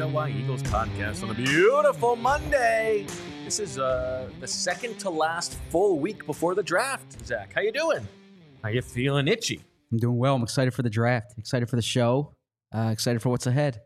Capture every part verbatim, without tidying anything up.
L Y Eagles podcast on a beautiful Monday. This is uh, the second to last full week before the draft. Zach, how you doing? How you feeling itchy? I'm doing well. I'm excited for the draft. Excited for the show. Uh, excited for what's ahead.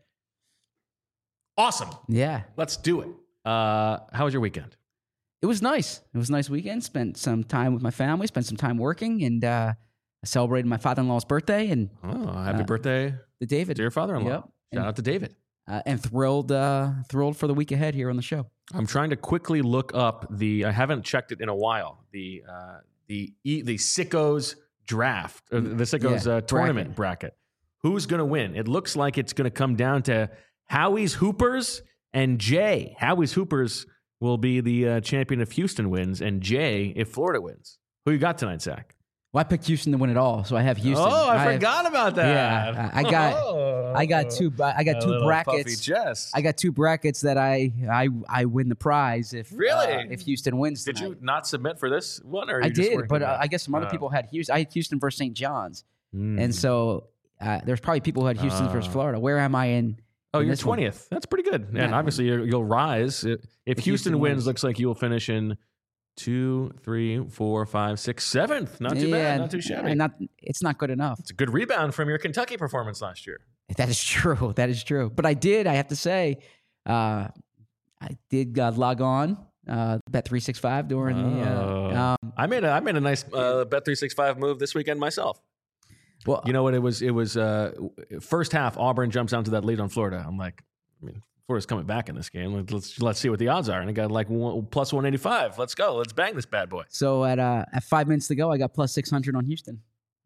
Awesome. Yeah. Let's do it. Uh, how was your weekend? It was nice. It was a nice weekend. Spent some time with my family. Spent some time working, and uh, I celebrated my father-in-law's birthday. And Oh, happy uh, birthday the David, to your father-in-law. Yep. Shout and, out to David. Uh, and thrilled, uh, thrilled for the week ahead here on the show. I'm trying to quickly look up the. I haven't checked it in a while. The uh, the e, the Sickos draft, or the Sickos Yeah, uh, tournament bracket. Who's going to win? It looks like it's going to come down to Howie's Hoopers and Jay. Howie's Hoopers will be the uh, champion if Houston wins, and Jay if Florida wins. Who you got tonight, Zach? Well, I picked Houston to win it all, so I have Houston. Oh, I, I have, forgot about that. Yeah, I I got, oh, I got two, I got a two little brackets. Puffy chest. I got two brackets that I, I, I win the prize if Really? uh, if Houston wins. Did tonight. you not submit for this one? Or are I you just did, working but on uh, it? I guess some other Uh, people had Houston. I had Houston versus Saint John's, mm. and so uh, there's probably people who had Houston Uh. versus Florida. Where am I in? Oh, in you're this one? twentieth. That's pretty good. And Yeah. obviously, you're, you'll rise. If, if Houston, Houston wins, wins. looks like you'll finish in two, three, four, five, six, seventh. Not too Yeah, bad. Not too shabby. and Not, it's not good enough. It's a good rebound from your Kentucky performance last year. That is true. That is true. But I did. I have to say, uh, I did uh, log on uh, Bet three sixty-five during the. Oh. Uh, um, I made a I made a nice uh, Bet three sixty-five move this weekend myself. well, You know what? It was it was uh, first half. Auburn jumps onto that lead on Florida. I'm like, I mean, Florida's coming back in this game. Let's let's, let's see what the odds are. And I got like one, plus one eighty-five. Let's go. Let's bang this bad boy. so at uh, at five minutes to go, I got plus six hundred on Houston.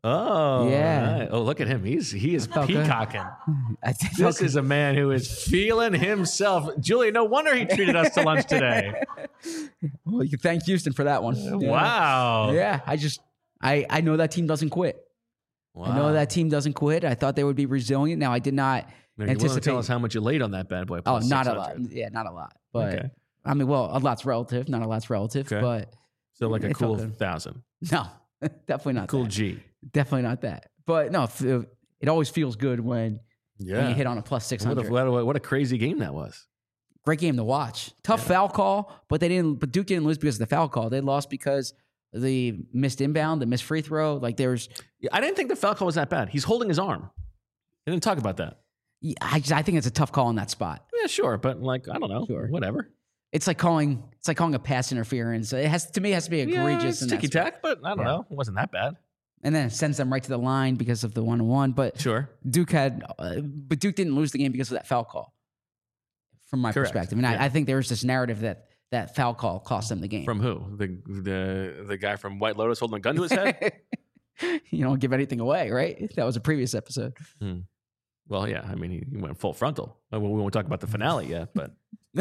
Oh Yeah. right. Oh, look at him. He's he is felt good. peacocking. I think This is a man who is feeling himself. Julia, no wonder he treated us to lunch today. Well, you can thank Houston for that one. Yeah. Wow. Yeah, I just I I know that team doesn't quit. Wow. I know that team doesn't quit. I thought they would be resilient. Now I did not Now, you want to anticipate. tell us how much you laid on that bad boy? Oh, plus not a six lot. hundred. Yeah, not a lot. But Okay. I mean, well, a lot's relative. Not a lot's relative. Okay. But So like a It felt cool good. thousand. no, definitely not. Cool that. G. Definitely not that. But no, f- it always feels good when, Yeah. when you hit on a plus six what, a, hundred. what, a, what a crazy game that was. Great game to watch. Tough foul call, but they didn't. But Duke didn't lose because of the foul call. They lost because of the missed inbound, the missed free throw. Like there's, Yeah, I didn't think the foul call was that bad. He's holding his arm. They didn't talk about that. I just, I think it's a tough call in that spot. Yeah, sure, but like I don't know, Sure. whatever. It's like calling. It's like calling a pass interference. It has to me it has to be Yeah, egregious. it's in that ticky spot. tack, but I don't Yeah. know. It wasn't that bad. And then it sends them right to the line because of the one on one. But Sure. Duke had, uh, but Duke didn't lose the game because of that foul call. From my Correct. perspective, and Yeah. I, I think there was this narrative that that foul call cost them the game. From who? The the the guy from White Lotus holding a gun to his head? You don't give anything away, right? That was a previous episode. Well, yeah. I mean, he, he went full frontal. Well, we won't talk about the finale yet, but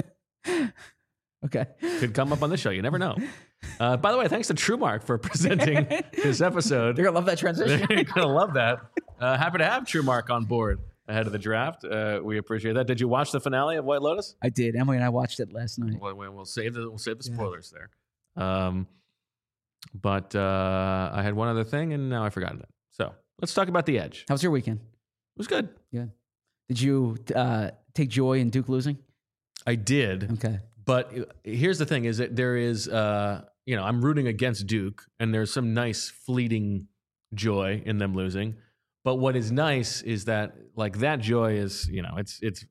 Okay. could come up on this show. You never know. Uh, by the way, thanks to TrueMark for presenting this episode. You're gonna love that transition. You're gonna love that. Uh, happy to have TrueMark on board ahead of the draft. Uh, we appreciate that. Did you watch the finale of White Lotus? I did. Emily and I watched it last night. Well, we'll we'll save the we'll save the spoilers there. Um, but uh, I had one other thing, and now I forgot it. So let's talk about the Edge. How was your weekend? It was good. Did you uh, take joy in Duke losing? I did. Okay. But here's the thing: is that there is, uh, you know, I'm rooting against Duke, and there's some nice fleeting joy in them losing. But what is nice is that, like, that joy is, you know, it's it's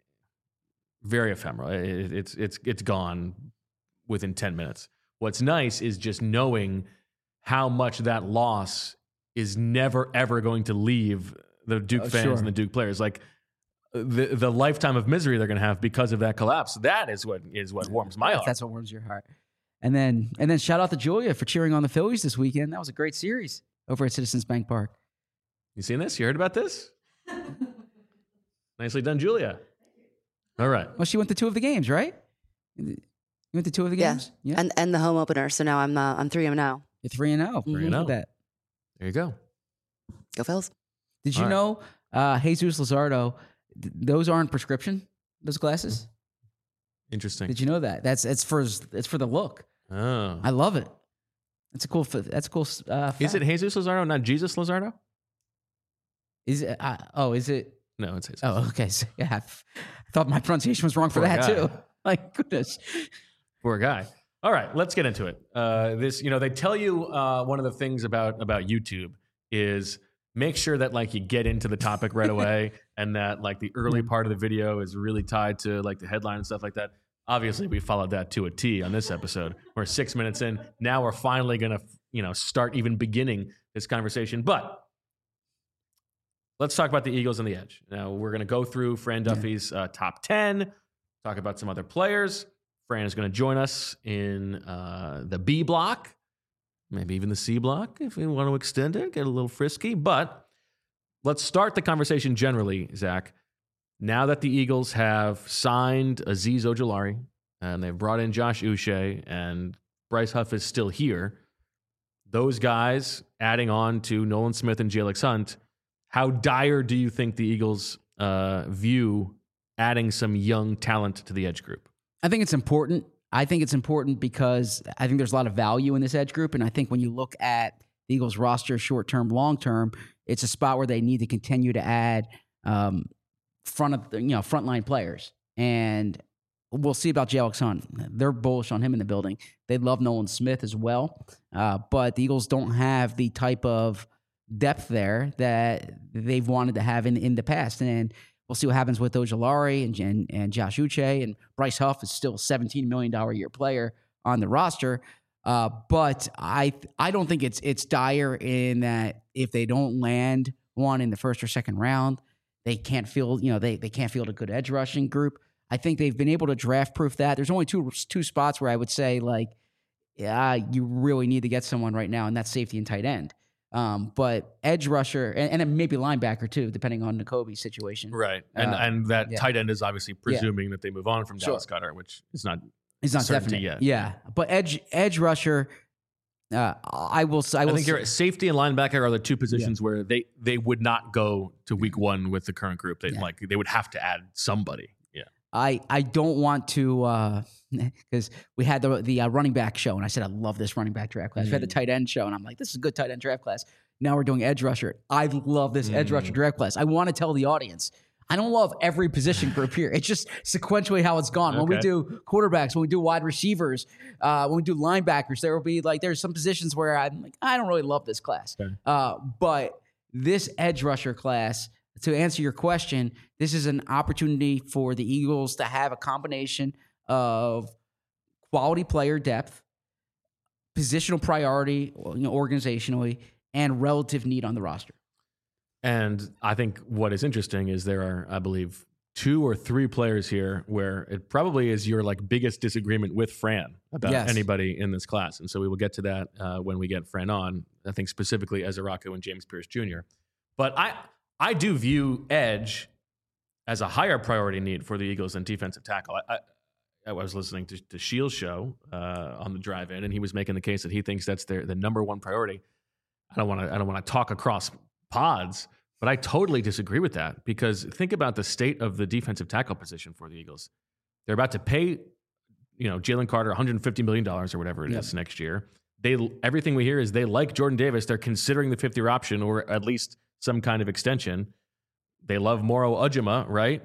very ephemeral. It, it's it's it's gone within ten minutes. What's nice is just knowing how much that loss is never ever going to leave the Duke Oh, fans sure. and the Duke players. Like, the the lifetime of misery they're going to have because of that collapse. That is what is what warms my heart. That's what warms your heart. And then and then shout out to Julia for cheering on the Phillies this weekend. That was a great series over at Citizens Bank Park. You seen this? You heard about this? Nicely done, Julia. All right. Well, she went to two of the games, right? You went to two of the Yeah. games? Yeah. and and the home opener. So now I'm uh, I'm three and now. You're three and oh. Three and Look oh. at that. There you go. Go Phils. Did you All right. know uh, Jesus Luzardo, th- those aren't prescription, those glasses? Interesting. Did you know that? That's it's for it's for the look. Oh. I love it. That's a cool. f- That's a cool. Uh, Is fact. it Jesus Luzardo, not Jesus Luzardo? Is it? Uh, oh, is it? No, it's Jesus. Oh, okay. So, yeah, I f- I thought my pronunciation was wrong for Poor that guy. too. Like, goodness. Poor guy. All right, let's get into it. Uh, this, you know, they tell you uh, one of the things about about YouTube is make sure that like you get into the topic right away, and that like the early part of the video is really tied to like the headline and stuff like that. Obviously, we followed that to a T on this episode. We're six minutes in. Now we're finally gonna, you know, start even beginning this conversation. But let's talk about the Eagles and the Edge. Now we're gonna go through Fran Duffy's uh, top ten, talk about some other players. Fran is going to join us in uh, the B block, maybe even the C block if we want to extend it, get a little frisky. But let's start the conversation generally, Zach. Now that the Eagles have signed Azeez Ojulari and they've brought in Josh Uche and Bryce Huff is still here, those guys adding on to Nolan Smith and Jalen Hunt, how dire do you think the Eagles uh, view adding some young talent to the edge group? I think it's important. I think it's important because I think there's a lot of value in this edge group. And I think when you look at the Eagles roster, short term, long term, it's a spot where they need to continue to add um, front of the, you know, frontline players. And we'll see about Jalen Hunt. They're bullish on him in the building. They love Nolan Smith as well. Uh, but the Eagles don't have the type of depth there that they've wanted to have in, in the past. And we'll see what happens with Ojulari and, and, and Josh Uche. And Bryce Huff is still a seventeen million dollars a year player on the roster. Uh, but I I don't think it's it's dire in that if they don't land one in the first or second round, they can't field, you know, they, they can't field a good edge rushing group. I think they've been able to draft proof that. There's only two two spots where I would say, like, yeah, you really need to get someone right now, and that's safety and tight end. Um, but edge rusher and, and then maybe linebacker too, depending on Nakobe's situation. Right. And Uh, and that yeah. tight end is obviously presuming that they move on from Sure. Dallas Goedert, which is not It's not certainty definite yet. Yeah, but edge edge rusher, uh, I will. I, I will think say, you're right. Safety and linebacker are the two positions where they, they would not go to week one with the current group. They Yeah. like they would have to add somebody. Yeah. I I don't want to because we had the the uh, running back show and I said I love this running back draft class. We had the tight end show and I'm like, this is a good tight end draft class. Now we're doing edge rusher. I love this edge rusher draft class. I want to tell the audience, I don't love every position group here. It's just sequentially how it's gone. When we Okay. do quarterbacks, when we do wide receivers, uh, when we do linebackers, there will be like there's some positions where I'm like, I don't really love this class. Okay. Uh, but this edge rusher class, to answer your question, this is an opportunity for the Eagles to have a combination of quality player depth, positional priority, you know, organizationally, and relative need on the roster. And I think what is interesting is there are, I believe, two or three players here where it probably is your like biggest disagreement with Fran about Yes. anybody in this class. And so we will get to that uh, when we get Fran on, I think specifically Ezra Rocco and James Pierce Junior But I, I do view edge as a higher priority need for the Eagles than defensive tackle. I, I, I was listening to, to Shields' show uh, on the drive in, and he was making the case that he thinks that's their the number one priority. I don't want to I don't want to talk across pods, but I totally disagree with that because think about the state of the defensive tackle position for the Eagles. They're about to pay, you know, Jalen Carter one hundred fifty million dollars or whatever it Yep. is next year. They everything we hear is they like Jordan Davis. They're considering the fifth-year option or at least some kind of extension. They love Moro Ujima, right?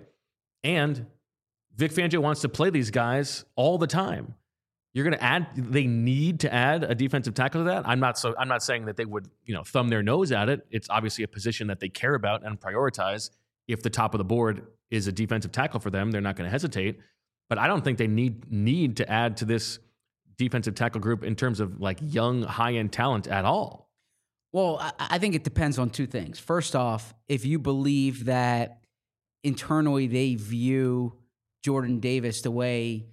And Vic Fangio wants to play these guys all the time. You're going to add. They need to add a defensive tackle to that. I'm not so. I'm not saying that they would, you know, thumb their nose at it. It's obviously a position that they care about and prioritize. If the top of the board is a defensive tackle for them, they're not going to hesitate. But I don't think they need need to add to this defensive tackle group in terms of like young, high end talent at all. Well, I, I think it depends on two things. First off, if you believe that internally they view Jordan Davis the way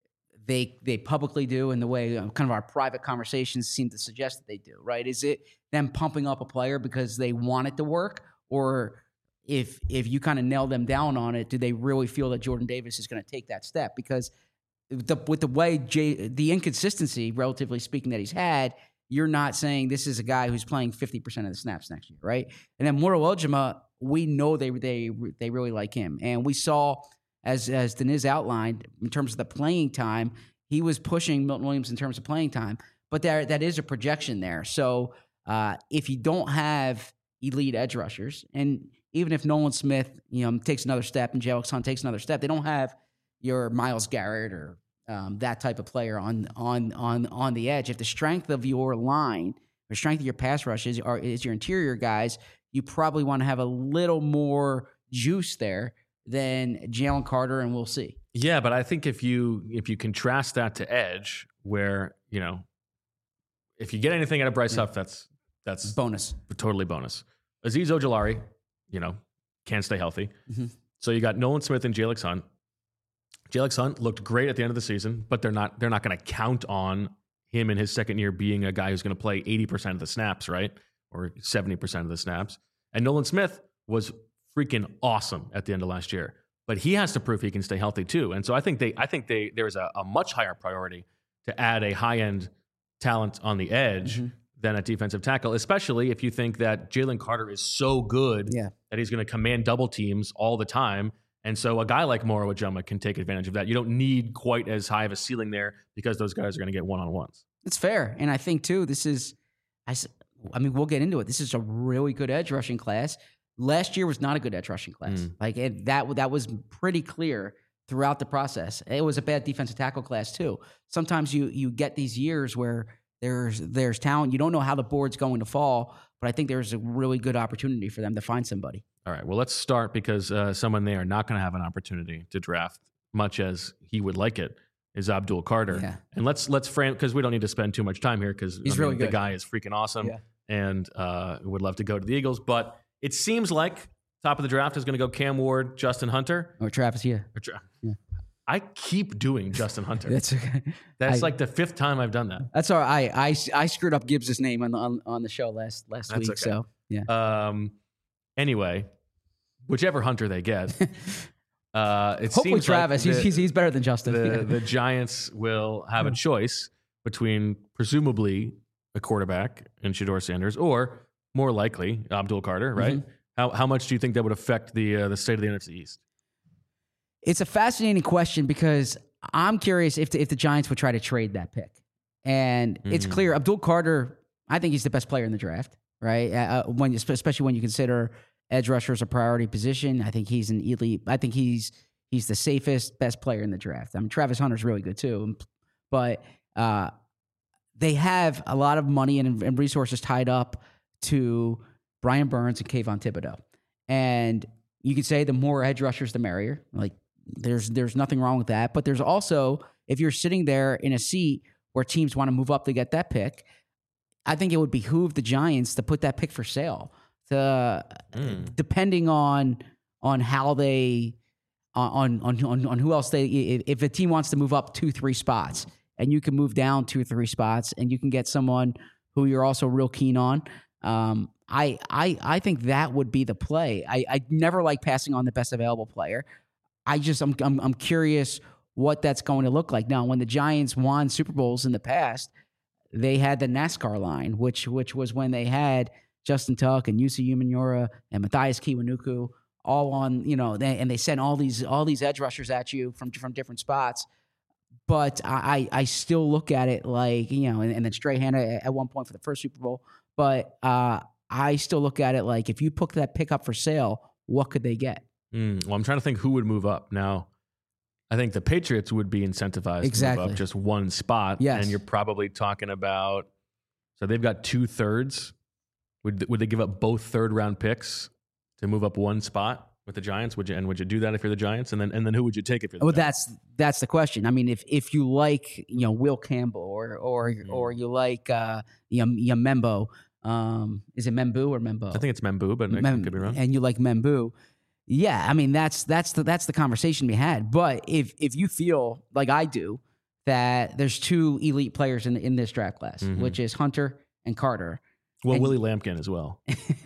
they they publicly do and the way um, kind of our private conversations seem to suggest that they do, right? Is it them pumping up a player because they want it to work? Or if if you kind of nail them down on it, do they really feel that Jordan Davis is going to take that step? Because the, with the way Jay, the inconsistency, relatively speaking, that he's had, you're not saying this is a guy who's playing fifty percent of the snaps next year, right? And then Moro Ujima, we know they they they really like him. And we saw, as as Deniz outlined, in terms of the playing time, he was pushing Milton Williams in terms of playing time. But there that is a projection there. So uh, if you don't have elite edge rushers, and even if Nolan Smith, you know, takes another step and Jalen Hunt takes another step, they don't have your Myles Garrett or um, that type of player on on on on the edge. If the strength of your line, the strength of your pass rush is, are, is your interior guys, you probably want to have a little more juice there than Jalen Carter, and we'll see. Yeah, but I think if you if you contrast that to edge, where you know, if you get anything out of Bryce Yeah. Huff, that's that's Bonus. totally bonus. Azeez Ojulari, you know, can't stay healthy. Mhm. So you got Nolan Smith and Jalen Hunt. Jalen Hunt looked great at the end of the season, but they're not they're not going to count on him in his second year being a guy who's going to play eighty percent of the snaps, right? Or seventy percent of the snaps. And Nolan Smith was freaking awesome at the end of last year. But he has to prove he can stay healthy too. And so I think they I think they there's a, a much higher priority to add a high-end talent on the edge Mhm. than at defensive tackle, especially if you think that Jalen Carter is so good Yeah. that he's going to command double teams all the time. And so a guy like Moro Ujama can take advantage of that. You don't need quite as high of a ceiling there because those guys are going to get one-on-ones. It's fair. And I think, too, this is, I, s- I mean, we'll get into it. This is a really good edge rushing class. Last year was not a good edge rushing class. Mm. Like it, that, that was pretty clear throughout the process. It was a bad defensive tackle class, too. Sometimes you you get these years where there's there's talent. You don't know how the board's going to fall, but I think there's a really good opportunity for them to find somebody. All right, well, let's start because uh, someone they are not going to have an opportunity to draft, much as he would like it, is Abdul Carter. Yeah. And let's let's frame, because we don't need to spend too much time here because He's really the good. guy is freaking awesome Yeah. and uh, would love to go to the Eagles. But it seems like top of the draft is going to go Cam Ward, Justin Hunter. Or Travis, yeah. Or Tra- Yeah. I keep doing Justin Hunter. That's okay. That's I- like the fifth time I've done that. That's all right. I, I, I screwed up Gibbs' name on the, on, on the show last last That's week. okay. So, yeah. Um, anyway, whichever Hunter they get, uh, it Hopefully seems Travis. like he's, the, he's he's better than Justin. the, Yeah. the Giants will have a choice between presumably a quarterback in Shedeur Sanders or more likely Abdul Carter, right? Mm-hmm. How how much do you think that would affect the uh, the state of the N F C East? It's a fascinating question because I'm curious if the, if the Giants would try to trade that pick. And it's Mhm. clear Abdul Carter, I think he's the best player in the draft, right? Uh, when especially when you consider edge rusher as a priority position, I think he's an elite. I think he's he's the safest, best player in the draft. I mean, Travis Hunter's really good too, but uh, they have a lot of money and, and resources tied up to Brian Burns and Kayvon Thibodeau. And you could say the more edge rushers, the merrier. Like there's there's nothing wrong with that. But there's also, if you're sitting there in a seat where teams want to move up to get that pick, I think it would behoove the Giants to put that pick for sale. To, Mm. depending on on how they on on on on who else they if a team wants to move up two three spots and you can move down two or three spots and you can get someone who you're also real keen on. Um, I I I think that would be the play. I I never like passing on the best available player. I just I'm I'm, I'm curious what that's going to look like. Now, when the Giants won Super Bowls in the past, they had the NASCAR line, which which was when they had Justin Tuck and Yusi Umenyiora and Matthias Kiwanuka all on, you know, they, and they sent all these all these edge rushers at you from from different spots. But I I still look at it like, you know, and, and then Strahan at, at one point for the first Super Bowl. But uh, I still look at it like if you put that pick up for sale, what could they get? Mm. Well, I'm trying to think who would move up now. I think the Patriots would be incentivized to Exactly. move up just one spot. Yes. And you're probably talking about, so they've got two thirds. Would would they give up both third round picks to move up one spot with the Giants? Would you and would you do that if you're the Giants? And then and then who would you take if you're the Well, Giants? that's that's the question. I mean, if if you like, you know, Will Campbell or or Mm. or you like uh Yam- Yamembo, um, is it Membu or Membo? I think it's Membu, but I Mem- could be wrong. And you like Membu, yeah. I mean, that's that's the that's the conversation we had. But if if you feel like I do that there's two elite players in in this draft class, Mhm. which is Hunter and Carter, Well, and- Willie Lampkin as well.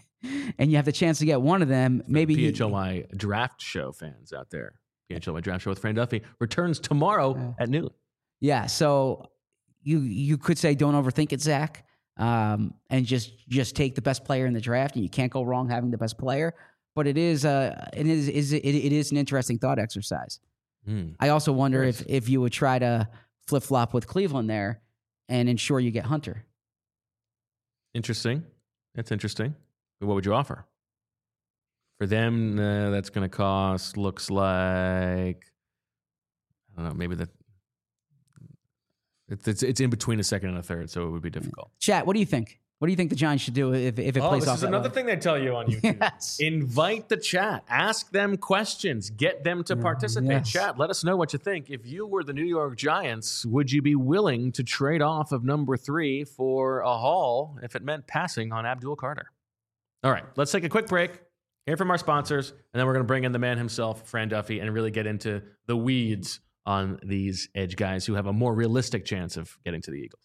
and you have the chance to get one of them, maybe P you- H L Y draft show fans out there. P H L Y draft show with Fran Duffy returns tomorrow Yeah. at noon. Yeah, so you you could say don't overthink it, Zach, um, and just just take the best player in the draft, and you can't go wrong having the best player. But it is uh it is is it, it is an interesting thought exercise. Mm. I also wonder Yes. if if you would try to flip flop with Cleveland there and ensure you get Hunter. Interesting. That's interesting. What would you offer For them, uh, that's going to cost, looks like, I don't know, maybe the, it's, it's it's in between a second and a third, so it would be difficult. Chat, what do you think? What do you think the Giants should do if, if it oh, plays this off is that another way? thing they tell you on YouTube. Yes. Invite the chat. Ask them questions. Get them to participate. Yes. Chat, let us know what you think. If you were the New York Giants, would you be willing to trade off of number three for a haul if it meant passing on Abdul Carter? All right, let's take a quick break, hear from our sponsors, and then we're going to bring in the man himself, Fran Duffy, and really get into the weeds on these edge guys who have a more realistic chance of getting to the Eagles.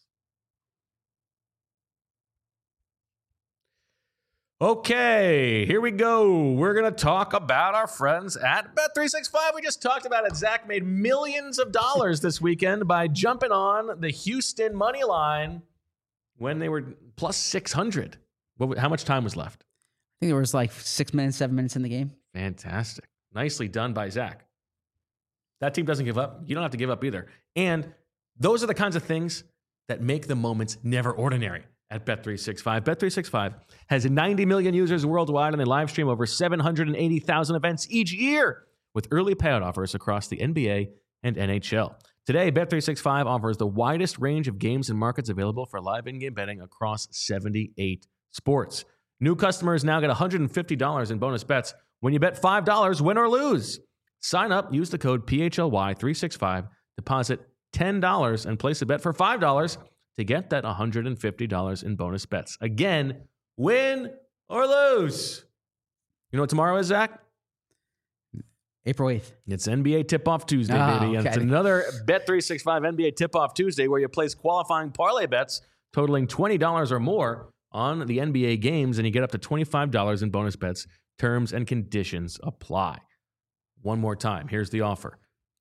Okay, here we go. We're going to talk about our friends at Bet three sixty-five. We just talked about it. Zach made millions of dollars this weekend by jumping on the Houston money line when they were plus six hundred. What, how much time was left? I think there was like six minutes, seven minutes in the game. Fantastic. Nicely done by Zach. That team doesn't give up. You don't have to give up either. And those are the kinds of things that make the moments never ordinary at Bet three sixty-five. Bet three sixty-five has ninety million users worldwide, and they live stream over seven hundred eighty thousand events each year with early payout offers across the N B A and N H L. Today, Bet three sixty-five offers the widest range of games and markets available for live in-game betting across seventy-eight sports. New customers now get one hundred fifty dollars in bonus bets when you bet five dollars, win or lose. Sign up, use the code P H L Y three sixty-five, deposit ten dollars, and place a bet for five dollars to get that one hundred fifty dollars in bonus bets. Again, win or lose. You know what tomorrow is, Zach? April eighth. It's N B A Tip-Off Tuesday, Oh, baby. And okay. it's another Bet three sixty-five N B A Tip-Off Tuesday where you place qualifying parlay bets totaling twenty dollars or more on the N B A games, and you get up to twenty-five dollars in bonus bets. Terms and conditions apply. One more time, here's the offer.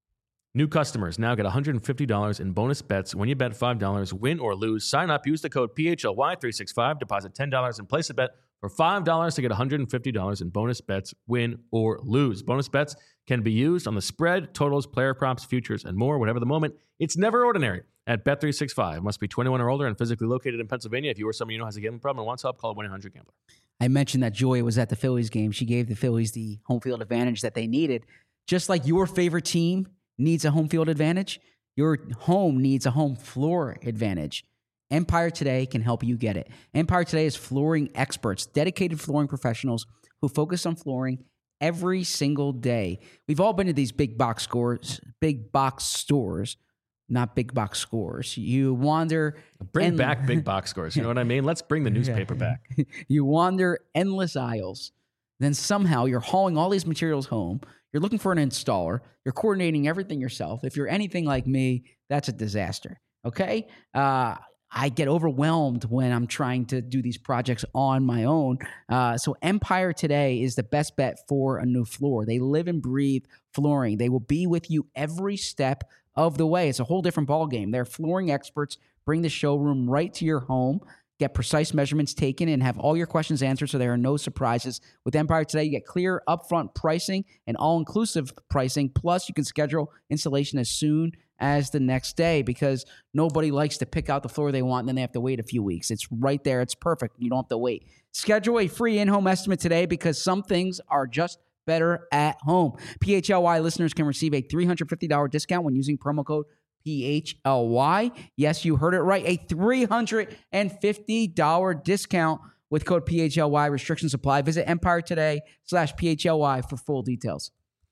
New customers now get one hundred fifty dollars in bonus bets when you bet five dollars, win or lose. Sign up, use the code P H L Y three sixty-five, deposit ten dollars, and place a bet for five dollars to get one hundred fifty dollars in bonus bets, win or lose. Bonus bets can be used on the spread, totals, player props, futures, and more. Whatever the moment, it's never ordinary at Bet three sixty-five. Must be twenty-one or older and physically located in Pennsylvania. If you or someone you know has a gambling problem and wants help, call one eight hundred gambler. I mentioned that Joy was at the Phillies game. She gave the Phillies the home field advantage that they needed. Just like your favorite team needs a home field advantage, your home needs a home floor advantage. Empire Today can help you get it. Empire Today is flooring experts, dedicated flooring professionals who focus on flooring every single day. We've all been to these big box stores, big box stores, not big box scores. You wander. Bring and- back big box scores. You know what I mean? Let's bring the newspaper back. You wander endless aisles. Then somehow you're hauling all these materials home. You're looking for an installer. You're coordinating everything yourself. If you're anything like me, that's a disaster. Okay? Uh, I get overwhelmed when I'm trying to do these projects on my own. Uh, so Empire Today is the best bet for a new floor. They live and breathe flooring. They will be with you every step of the way. It's a whole different ballgame. They're flooring experts. Bring the showroom right to your home. Get precise measurements taken and have all your questions answered so there are no surprises. With Empire Today, you get clear upfront pricing and all-inclusive pricing. Plus, you can schedule installation as soon as the next day because nobody likes to pick out the floor they want and then they have to wait a few weeks. It's right there. It's perfect. You don't have to wait. Schedule a free in-home estimate today because some things are just better at home. P H L Y listeners can receive a three hundred fifty dollars discount when using promo code P H L Y. Yes, you heard it right. A three hundred fifty dollars discount with code P H L Y. Restrictions apply. Visit Empire Today slash P H L Y for full details.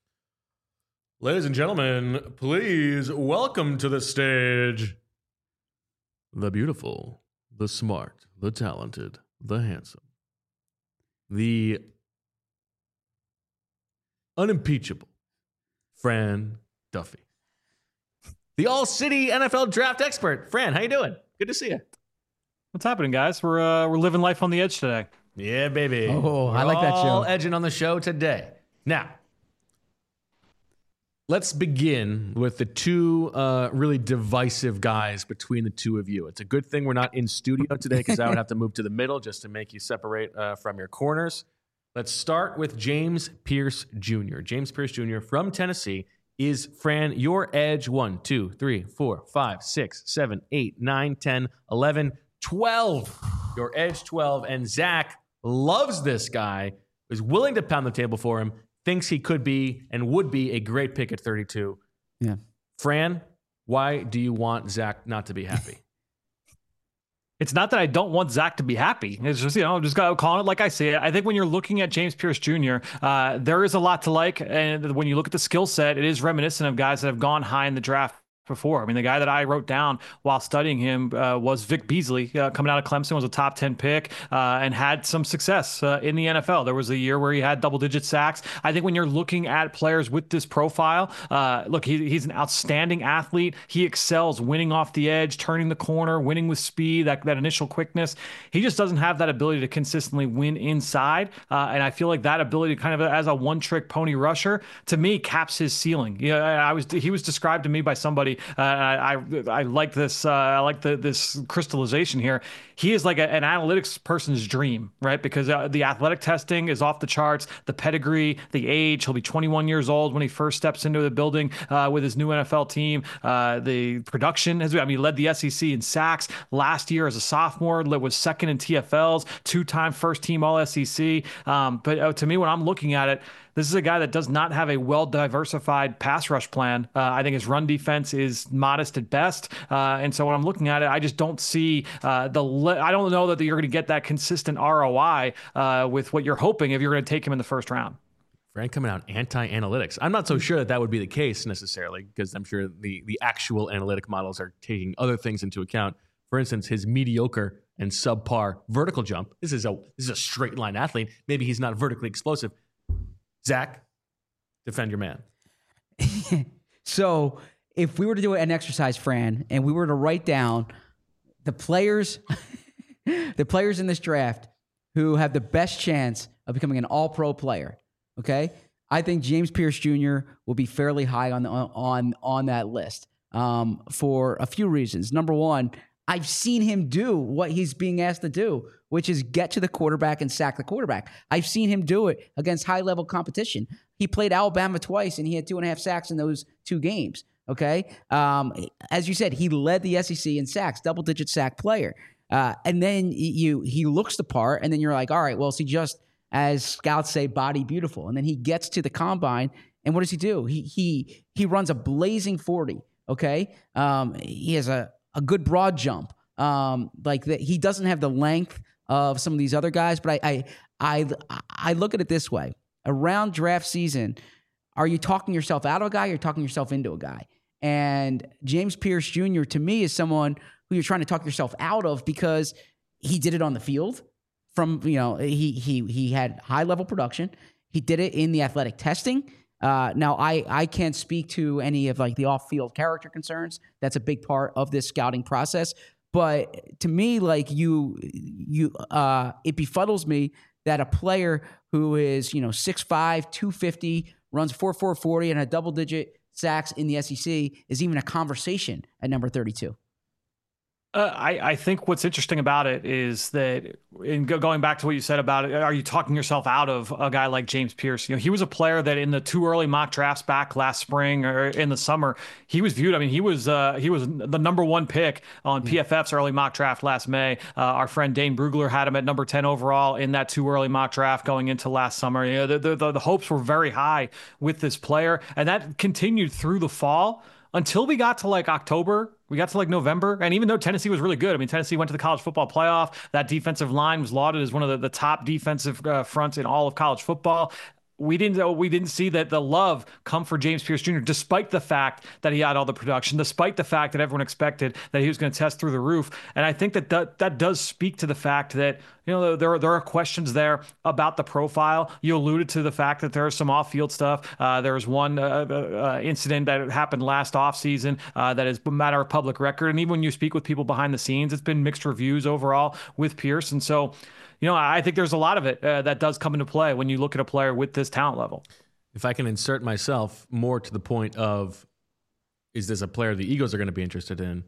Ladies and gentlemen, please welcome to the stage the beautiful, the smart, the talented, the handsome, the unimpeachable Fran Duffy. The all-city N F L draft expert. Fran, how you doing? Good to see you. What's happening, guys? We're uh, we're living life on the edge today. Yeah, baby. Oh, We're I like that show. all edging on the show today. Now, let's begin with the two uh, really divisive guys between the two of you. It's a good thing we're not in studio today because I would have to move to the middle just to make you separate uh, from your corners. Let's start with James Pierce Junior James Pierce Junior from Tennessee. Is, Fran, your edge one, two, three, four, five, six, seven, eight, nine, ten, eleven, twelve. Your edge twelve. And Zach loves this guy. is willing to pound the table for him, thinks he could be and would be a great pick at thirty-two. Yeah. Fran, why do you want Zach not to be happy? It's not that I don't want Zach to be happy. It's just, you know, just got to call it like I see it. I think when you're looking at James Pierce Junior, uh, there is a lot to like. And when you look at the skill set, it is reminiscent of guys that have gone high in the draft before. I mean, the guy that I wrote down while studying him uh, was Vic Beasley, uh, coming out of Clemson, was a top ten pick uh, and had some success uh, in the N F L. There was a year where he had double-digit sacks. I think when you're looking at players with this profile, uh, look, he, he's an outstanding athlete. He excels winning off the edge, turning the corner, winning with speed, that, that initial quickness. He just doesn't have that ability to consistently win inside. Uh, and I feel like that ability kind of as a one-trick pony rusher, to me, caps his ceiling. You know, I was he was described to me by somebody. Uh, I, I I like this. Uh, I like the, this crystallization here. He is like a, an analytics person's dream, right? Because uh, the athletic testing is off the charts. The pedigree, the age. He'll be twenty-one years old when he first steps into the building uh, with his new N F L team. Uh, the production has. I mean, he led the S E C in sacks last year as a sophomore. Was second in T F Ls. Two-time first-team All S E C. Um, but uh, to me, when I'm looking at it, this is a guy that does not have a well-diversified pass rush plan. Uh, I think his run defense is modest at best. Uh, and so when I'm looking at it, I just don't see uh, the le- – I don't know that you're going to get that consistent R O I uh, with what you're hoping if you're going to take him in the first round. Frank coming out anti-analytics. I'm not so sure that that would be the case necessarily, because I'm sure the, the actual analytic models are taking other things into account. For instance, his mediocre and subpar vertical jump. This is a this is a straight line athlete. Maybe he's not vertically explosive. Zach, defend your man. So if we were to do an exercise, Fran, and we were to write down the players, the players in this draft who have the best chance of becoming an all-pro player, okay, I think James Pierce Junior will be fairly high on the, on on that list um, for a few reasons. Number one, I've seen him do what he's being asked to do, which is get to the quarterback and sack the quarterback. I've seen him do it against high-level competition. He played Alabama twice, and he had two and a half sacks in those two games, okay? Um, as you said, he led the S E C in sacks, double-digit sack player. Uh, and then you he looks the part, and then you're like, all right, well, is he just, as scouts say, body beautiful? And then he gets to the combine, and what does he do? He he he runs a blazing forty, okay? Um, he has a a good broad jump. Um, like that, he doesn't have the length of some of these other guys, but I, I, I, I look at it this way: around draft season, are you talking yourself out of a guy, or you're talking yourself into a guy? And James Pierce Junior to me is someone who you're trying to talk yourself out of because he did it on the field. From you know, he he he had high level production. He did it in the athletic testing. Uh, now, I, I can't speak to any of like the off-field character concerns. That's a big part of this scouting process. But to me, like you, you, uh, it befuddles me that a player who is you know six five, two fifty, runs four four forty, and had double-digit sacks in the S E C is even a conversation at number thirty-two. Uh, I, I think what's interesting about it is that, in go, going back to what you said about it, are you talking yourself out of a guy like James Pierce? You know, he was a player that in the two early mock drafts back last spring or in the summer, he was viewed. I mean, he was uh, he was the number one pick on P F F's early mock draft last May. Uh, our friend Dane Brugler had him at number ten overall in that two early mock draft going into last summer. You know, the, the, the hopes were very high with this player, and that continued through the fall. Until we got to like October, we got to like November. And even though Tennessee was really good, I mean, Tennessee went to the college football playoff. That defensive line was lauded as one of the, the top defensive uh, fronts in all of college football. We didn't we didn't see that the love come for James Pierce Junior, despite the fact that he had all the production, despite the fact that everyone expected that he was going to test through the roof. And I think that that, that does speak to the fact that, you know, there are, there are questions there about the profile. You alluded to the fact that there is some off-field stuff. Uh, there was one uh, uh, incident that happened last offseason uh, that is a matter of public record. And even when you speak with people behind the scenes, it's been mixed reviews overall with Pierce. And so, you know, I think there's a lot of it uh, that does come into play when you look at a player with this talent level. If I can insert myself more to the point of, is this a player the Eagles are going to be interested in?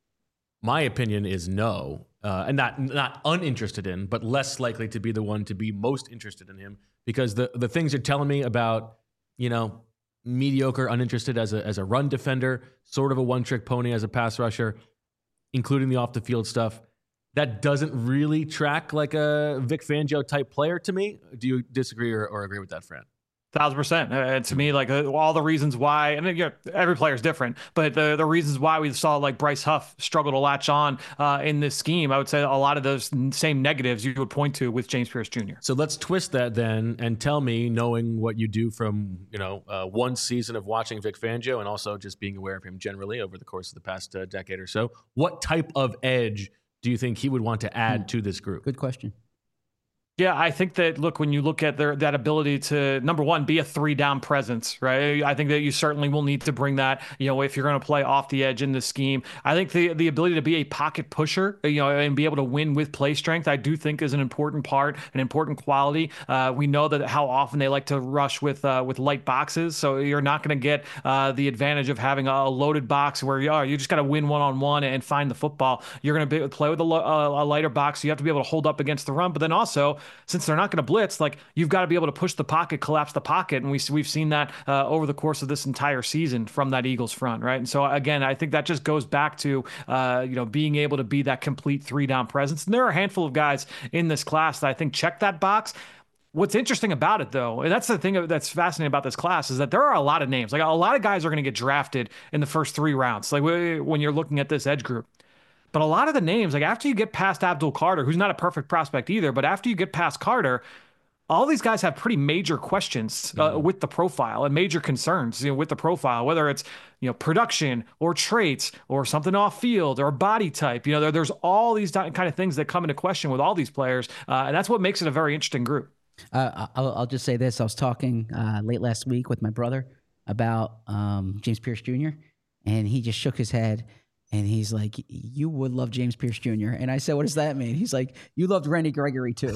My opinion is no, uh, and not not uninterested in, but less likely to be the one to be most interested in him, because the the things you're telling me about, you know, mediocre, uninterested as a as a run defender, sort of a one trick pony as a pass rusher, including the off the field stuff, that doesn't really track like a Vic Fangio type player to me. Do you disagree or, or agree with that, Fran? Thousand percent. Uh, to me, like uh, all the reasons why, and you know, every player is different, but the the reasons why we saw like Bryce Huff struggle to latch on uh, in this scheme, I would say a lot of those same negatives you would point to with James Pierce Junior So let's twist that then and tell me, knowing what you do from you know uh, one season of watching Vic Fangio and also just being aware of him generally over the course of the past uh, decade or so, what type of edge do you think he would want to add hmm. to this group? Good question. Yeah, I think that, look, when you look at their that ability to, number one, be a three-down presence, right? I think that you certainly will need to bring that, you know, if you're going to play off the edge in this scheme. I think the the ability to be a pocket pusher, you know, and be able to win with play strength, I do think is an important part, an important quality. Uh, we know that how often they like to rush with uh, with light boxes, so you're not going to get uh, the advantage of having a loaded box where you are. You just got to win one-on-one and find the football. You're going to play with a, a, a lighter box, so you have to be able to hold up against the run, but then also, since they're not going to blitz, like you've got to be able to push the pocket, collapse the pocket. And we, we've seen that uh, over the course of this entire season from that Eagles front, right? And so again, I think that just goes back to, uh, you know, being able to be that complete three down presence. And there are a handful of guys in this class that I think check that box. What's interesting about it, though, and that's the thing that's fascinating about this class, is that there are a lot of names. Like a lot of guys are going to get drafted in the first three rounds, like when you're looking at this edge group. But a lot of the names, like after you get past Abdul Carter, who's not a perfect prospect either, but after you get past Carter, all these guys have pretty major questions uh, mm-hmm. with the profile and major concerns, you know, with the profile, whether it's, you know, production or traits or something off field or body type. You know, there, there's all these kind of things that come into question with all these players. Uh, and that's what makes it a very interesting group. Uh, I'll, I'll just say this. I was talking uh, late last week with my brother about um, James Pierce Junior, and he just shook his head. And he's like, you would love James Pierce Junior And I said, what does that mean? He's like, you loved Randy Gregory too.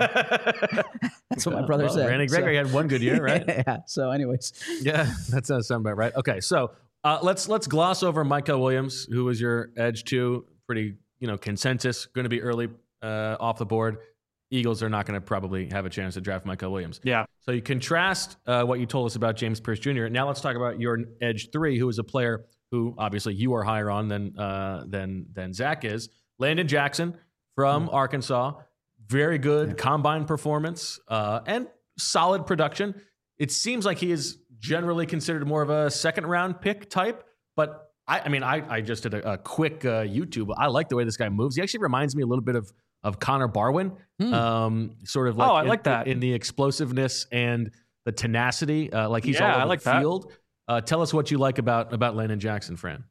That's what my brother well, said. Randy Gregory so, had one good year, right? Yeah. So anyways. Yeah, that sounds sound about right. Okay, so uh, let's let's gloss over Mykel Williams, who was your edge two. Pretty, you know, consensus, going to be early uh, off the board. Eagles are not going to probably have a chance to draft Mykel Williams. Yeah. So you contrast uh, what you told us about James Pierce Junior Now let's talk about your edge three, who is a player who obviously you are higher on than uh, than than Zach is. Landon Jackson from mm-hmm. Arkansas, very good yeah. combine performance uh, and solid production. It seems like he is generally considered more of a second round pick type, but I, I mean, I, I just did a, a quick uh, YouTube. I like the way this guy moves. He actually reminds me a little bit of of Connor Barwin, mm. um, sort of like oh, I in, like that in the explosiveness and the tenacity. Uh, like he's yeah, all over I like the field. That. Uh, tell us what you like about about Landon Jackson, Fran.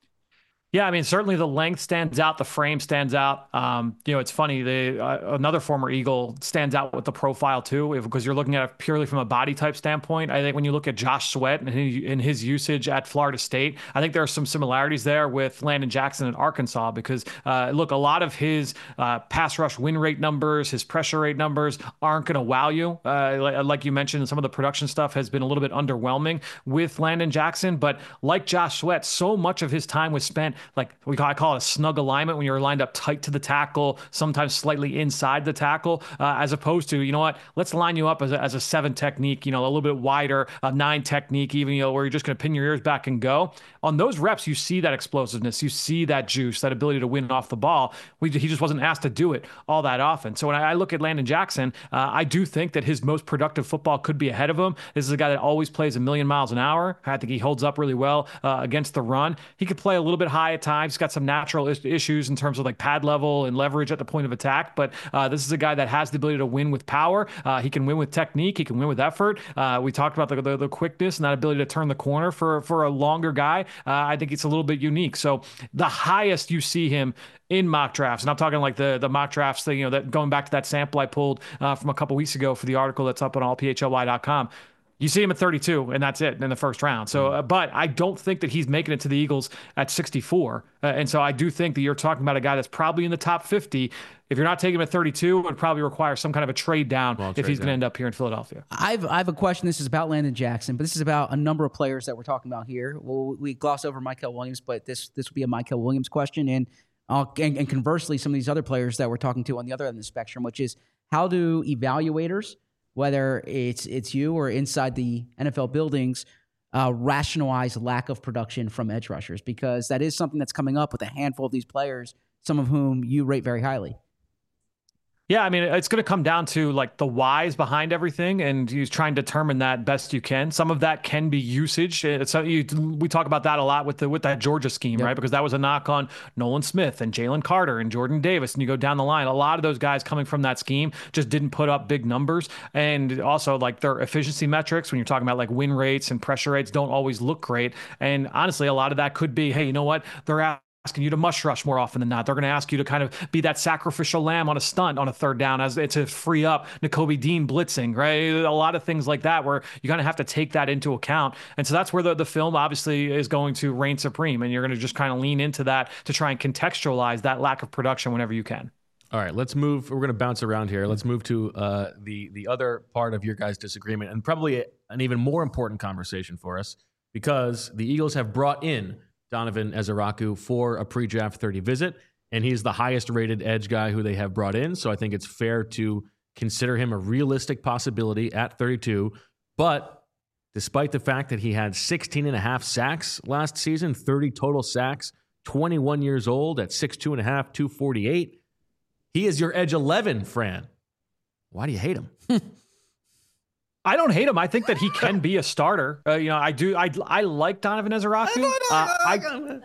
Yeah, I mean, certainly the length stands out, the frame stands out. Um, you know, it's funny. The uh, another former Eagle stands out with the profile too, if, because you're looking at it purely from a body type standpoint. I think when you look at Josh Sweat and his, and his usage at Florida State, I think there are some similarities there with Landon Jackson in Arkansas. Because uh, look, a lot of his uh, pass rush win rate numbers, his pressure rate numbers aren't going to wow you. Uh, like, like you mentioned, some of the production stuff has been a little bit underwhelming with Landon Jackson. But like Josh Sweat, so much of his time was spent. Like we call, I call it a snug alignment, when you're lined up tight to the tackle, sometimes slightly inside the tackle, uh, as opposed to, you know what, let's line you up as a, as a seven technique, you know, a little bit wider, a nine technique, even, you know, where you're just going to pin your ears back and go. On those reps, you see that explosiveness, you see that juice, that ability to win off the ball. We, he just wasn't asked to do it all that often. So when I, I look at Landon Jackson, uh, I do think that his most productive football could be ahead of him. This is a guy that always plays a million miles an hour. I think he holds up really well uh, against the run. He could play a little bit high at times. He's got some natural is- issues in terms of like pad level and leverage at the point of attack. But uh, this is a guy that has the ability to win with power. Uh, he can win with technique. He can win with effort. Uh, we talked about the, the, the quickness and that ability to turn the corner for, for a longer guy. Uh, I think it's a little bit unique. So the highest you see him in mock drafts, and I'm talking like the the mock drafts that, you know, that going back to that sample I pulled uh, from a couple weeks ago for the article that's up on all P H L Y dot com. You see him at thirty-two, and that's it in the first round. So, uh, but I don't think that he's making it to the Eagles at sixty-four. Uh, and so I do think that you're talking about a guy that's probably in the top fifty. If you're not taking him at thirty-two, it would probably require some kind of a trade down well, if he's going to end up here in Philadelphia. I've I have a question. This is about Landon Jackson, but this is about a number of players that we're talking about here. Well, we gloss over Mykel Williams, but this this will be a Mykel Williams question. And, uh, and, and conversely, some of these other players that we're talking to on the other end of the spectrum, which is how do evaluators, whether it's it's you or inside the N F L buildings, uh, rationalize lack of production from edge rushers? Because that is something that's coming up with a handful of these players some of whom you rate very highly. Yeah, I mean, it's going to come down to like the whys behind everything, and you try and determine that best you can. Some of that can be usage. It's you, we talk about that a lot with the with that Georgia scheme, yep. right? Because that was a knock on Nolan Smith and Jalen Carter and Jordan Davis, and you go down the line. A lot of those guys coming from that scheme just didn't put up big numbers, and also like their efficiency metrics when you're talking about like win rates and pressure rates don't always look great. And honestly, a lot of that could be, hey, you know what? They're out. Asking you to mush rush more often than not. They're going to ask you to kind of be that sacrificial lamb on a stunt on a third down as to free up Nakobe Dean blitzing, right? A lot of things like that where you kind of have to take that into account. And so that's where the, the film obviously is going to reign supreme. And you're going to just kind of lean into that to try and contextualize that lack of production whenever you can. All right, let's move. We're going to bounce around here. Let's move to uh, the, the other part of your guys' disagreement, and probably an even more important conversation for us, because the Eagles have brought in Donovan Eziraku for a pre-draft thirty visit, and he's the highest rated edge guy who they have brought in. So I think it's fair to consider him a realistic possibility at thirty-two. But despite the fact that he had sixteen and a half sacks last season, thirty total sacks, twenty-one years old at six two and a half, two forty-eight, he is your edge eleven, Fran. Why do you hate him? I don't hate him. I think that he can be a starter. Uh, you know, I do. I I like Donovan Eziraku. Uh, I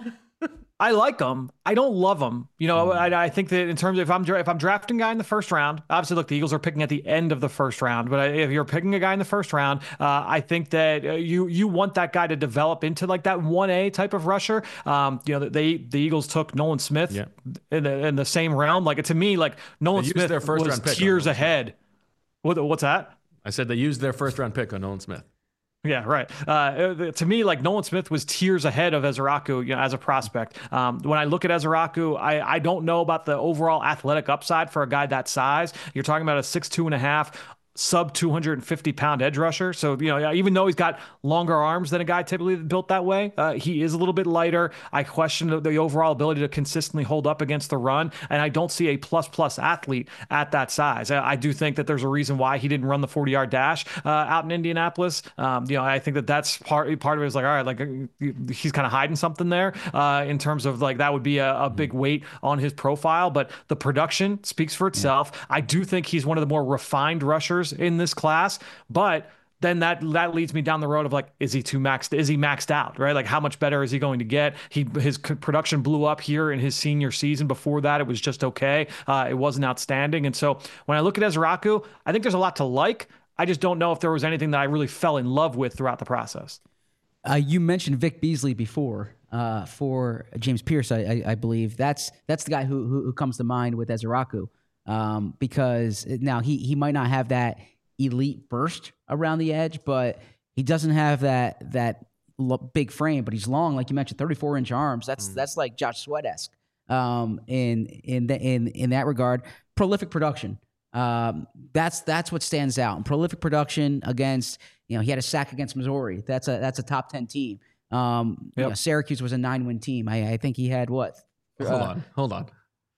I like him. I don't love him. You know, mm. I, I think that in terms of if I'm if I'm drafting a guy in the first round, obviously, look, the Eagles are picking at the end of the first round. But if you're picking a guy in the first round, uh, I think that uh, you you want that guy to develop into like that one A type of rusher. Um, you know, they the Eagles took Nolan Smith yeah. in the in the same round. Like to me, like Nolan Smith their first was round tiers ahead. What, what's that? I said they used their first round pick on Nolan Smith. Yeah, right. Uh, to me, like Nolan Smith was tiers ahead of Eziraku, you know, as a prospect. Um, when I look at Eziraku, I, I don't know about the overall athletic upside for a guy that size. You're talking about a six two and a half, sub two hundred fifty pound edge rusher. So, you know, even though he's got longer arms than a guy typically built that way, uh, he is a little bit lighter. I question the, the overall ability to consistently hold up against the run. And I don't see a plus plus athlete at that size. I, I do think that there's a reason why he didn't run the forty yard dash uh, out in Indianapolis. Um, you know, I think that that's part, part of it is like, all right, like he's kind of hiding something there uh, in terms of like, that would be a, a big weight on his profile, but the production speaks for itself. Yeah. I do think he's one of the more refined rushers in this class, but then that that leads me down the road of like, is he too maxed? Is he maxed out? Right? Like, how much better is he going to get? He his production blew up here in his senior season. Before that, it was just okay. Uh, it wasn't outstanding. And so when I look at Eziraku, I think there's a lot to like. I just don't know if there was anything that I really fell in love with throughout the process. Uh, you mentioned Vic Beasley before uh, for James Pierce, I, I, I believe. That's that's the guy who who, who comes to mind with Eziraku. Um, because now he he might not have that elite burst around the edge, but he doesn't have that that big frame. But he's long, like you mentioned, thirty-four inch arms. That's mm. that's like Josh Sweat-esque um, in in the, in in that regard. Prolific production. Um, that's that's what stands out. And prolific production against, you know, he had a sack against Missouri. That's a that's a top ten team. Um, yep. you know, Syracuse was a nine win team. I, I think he had what? Hold uh, on, hold on.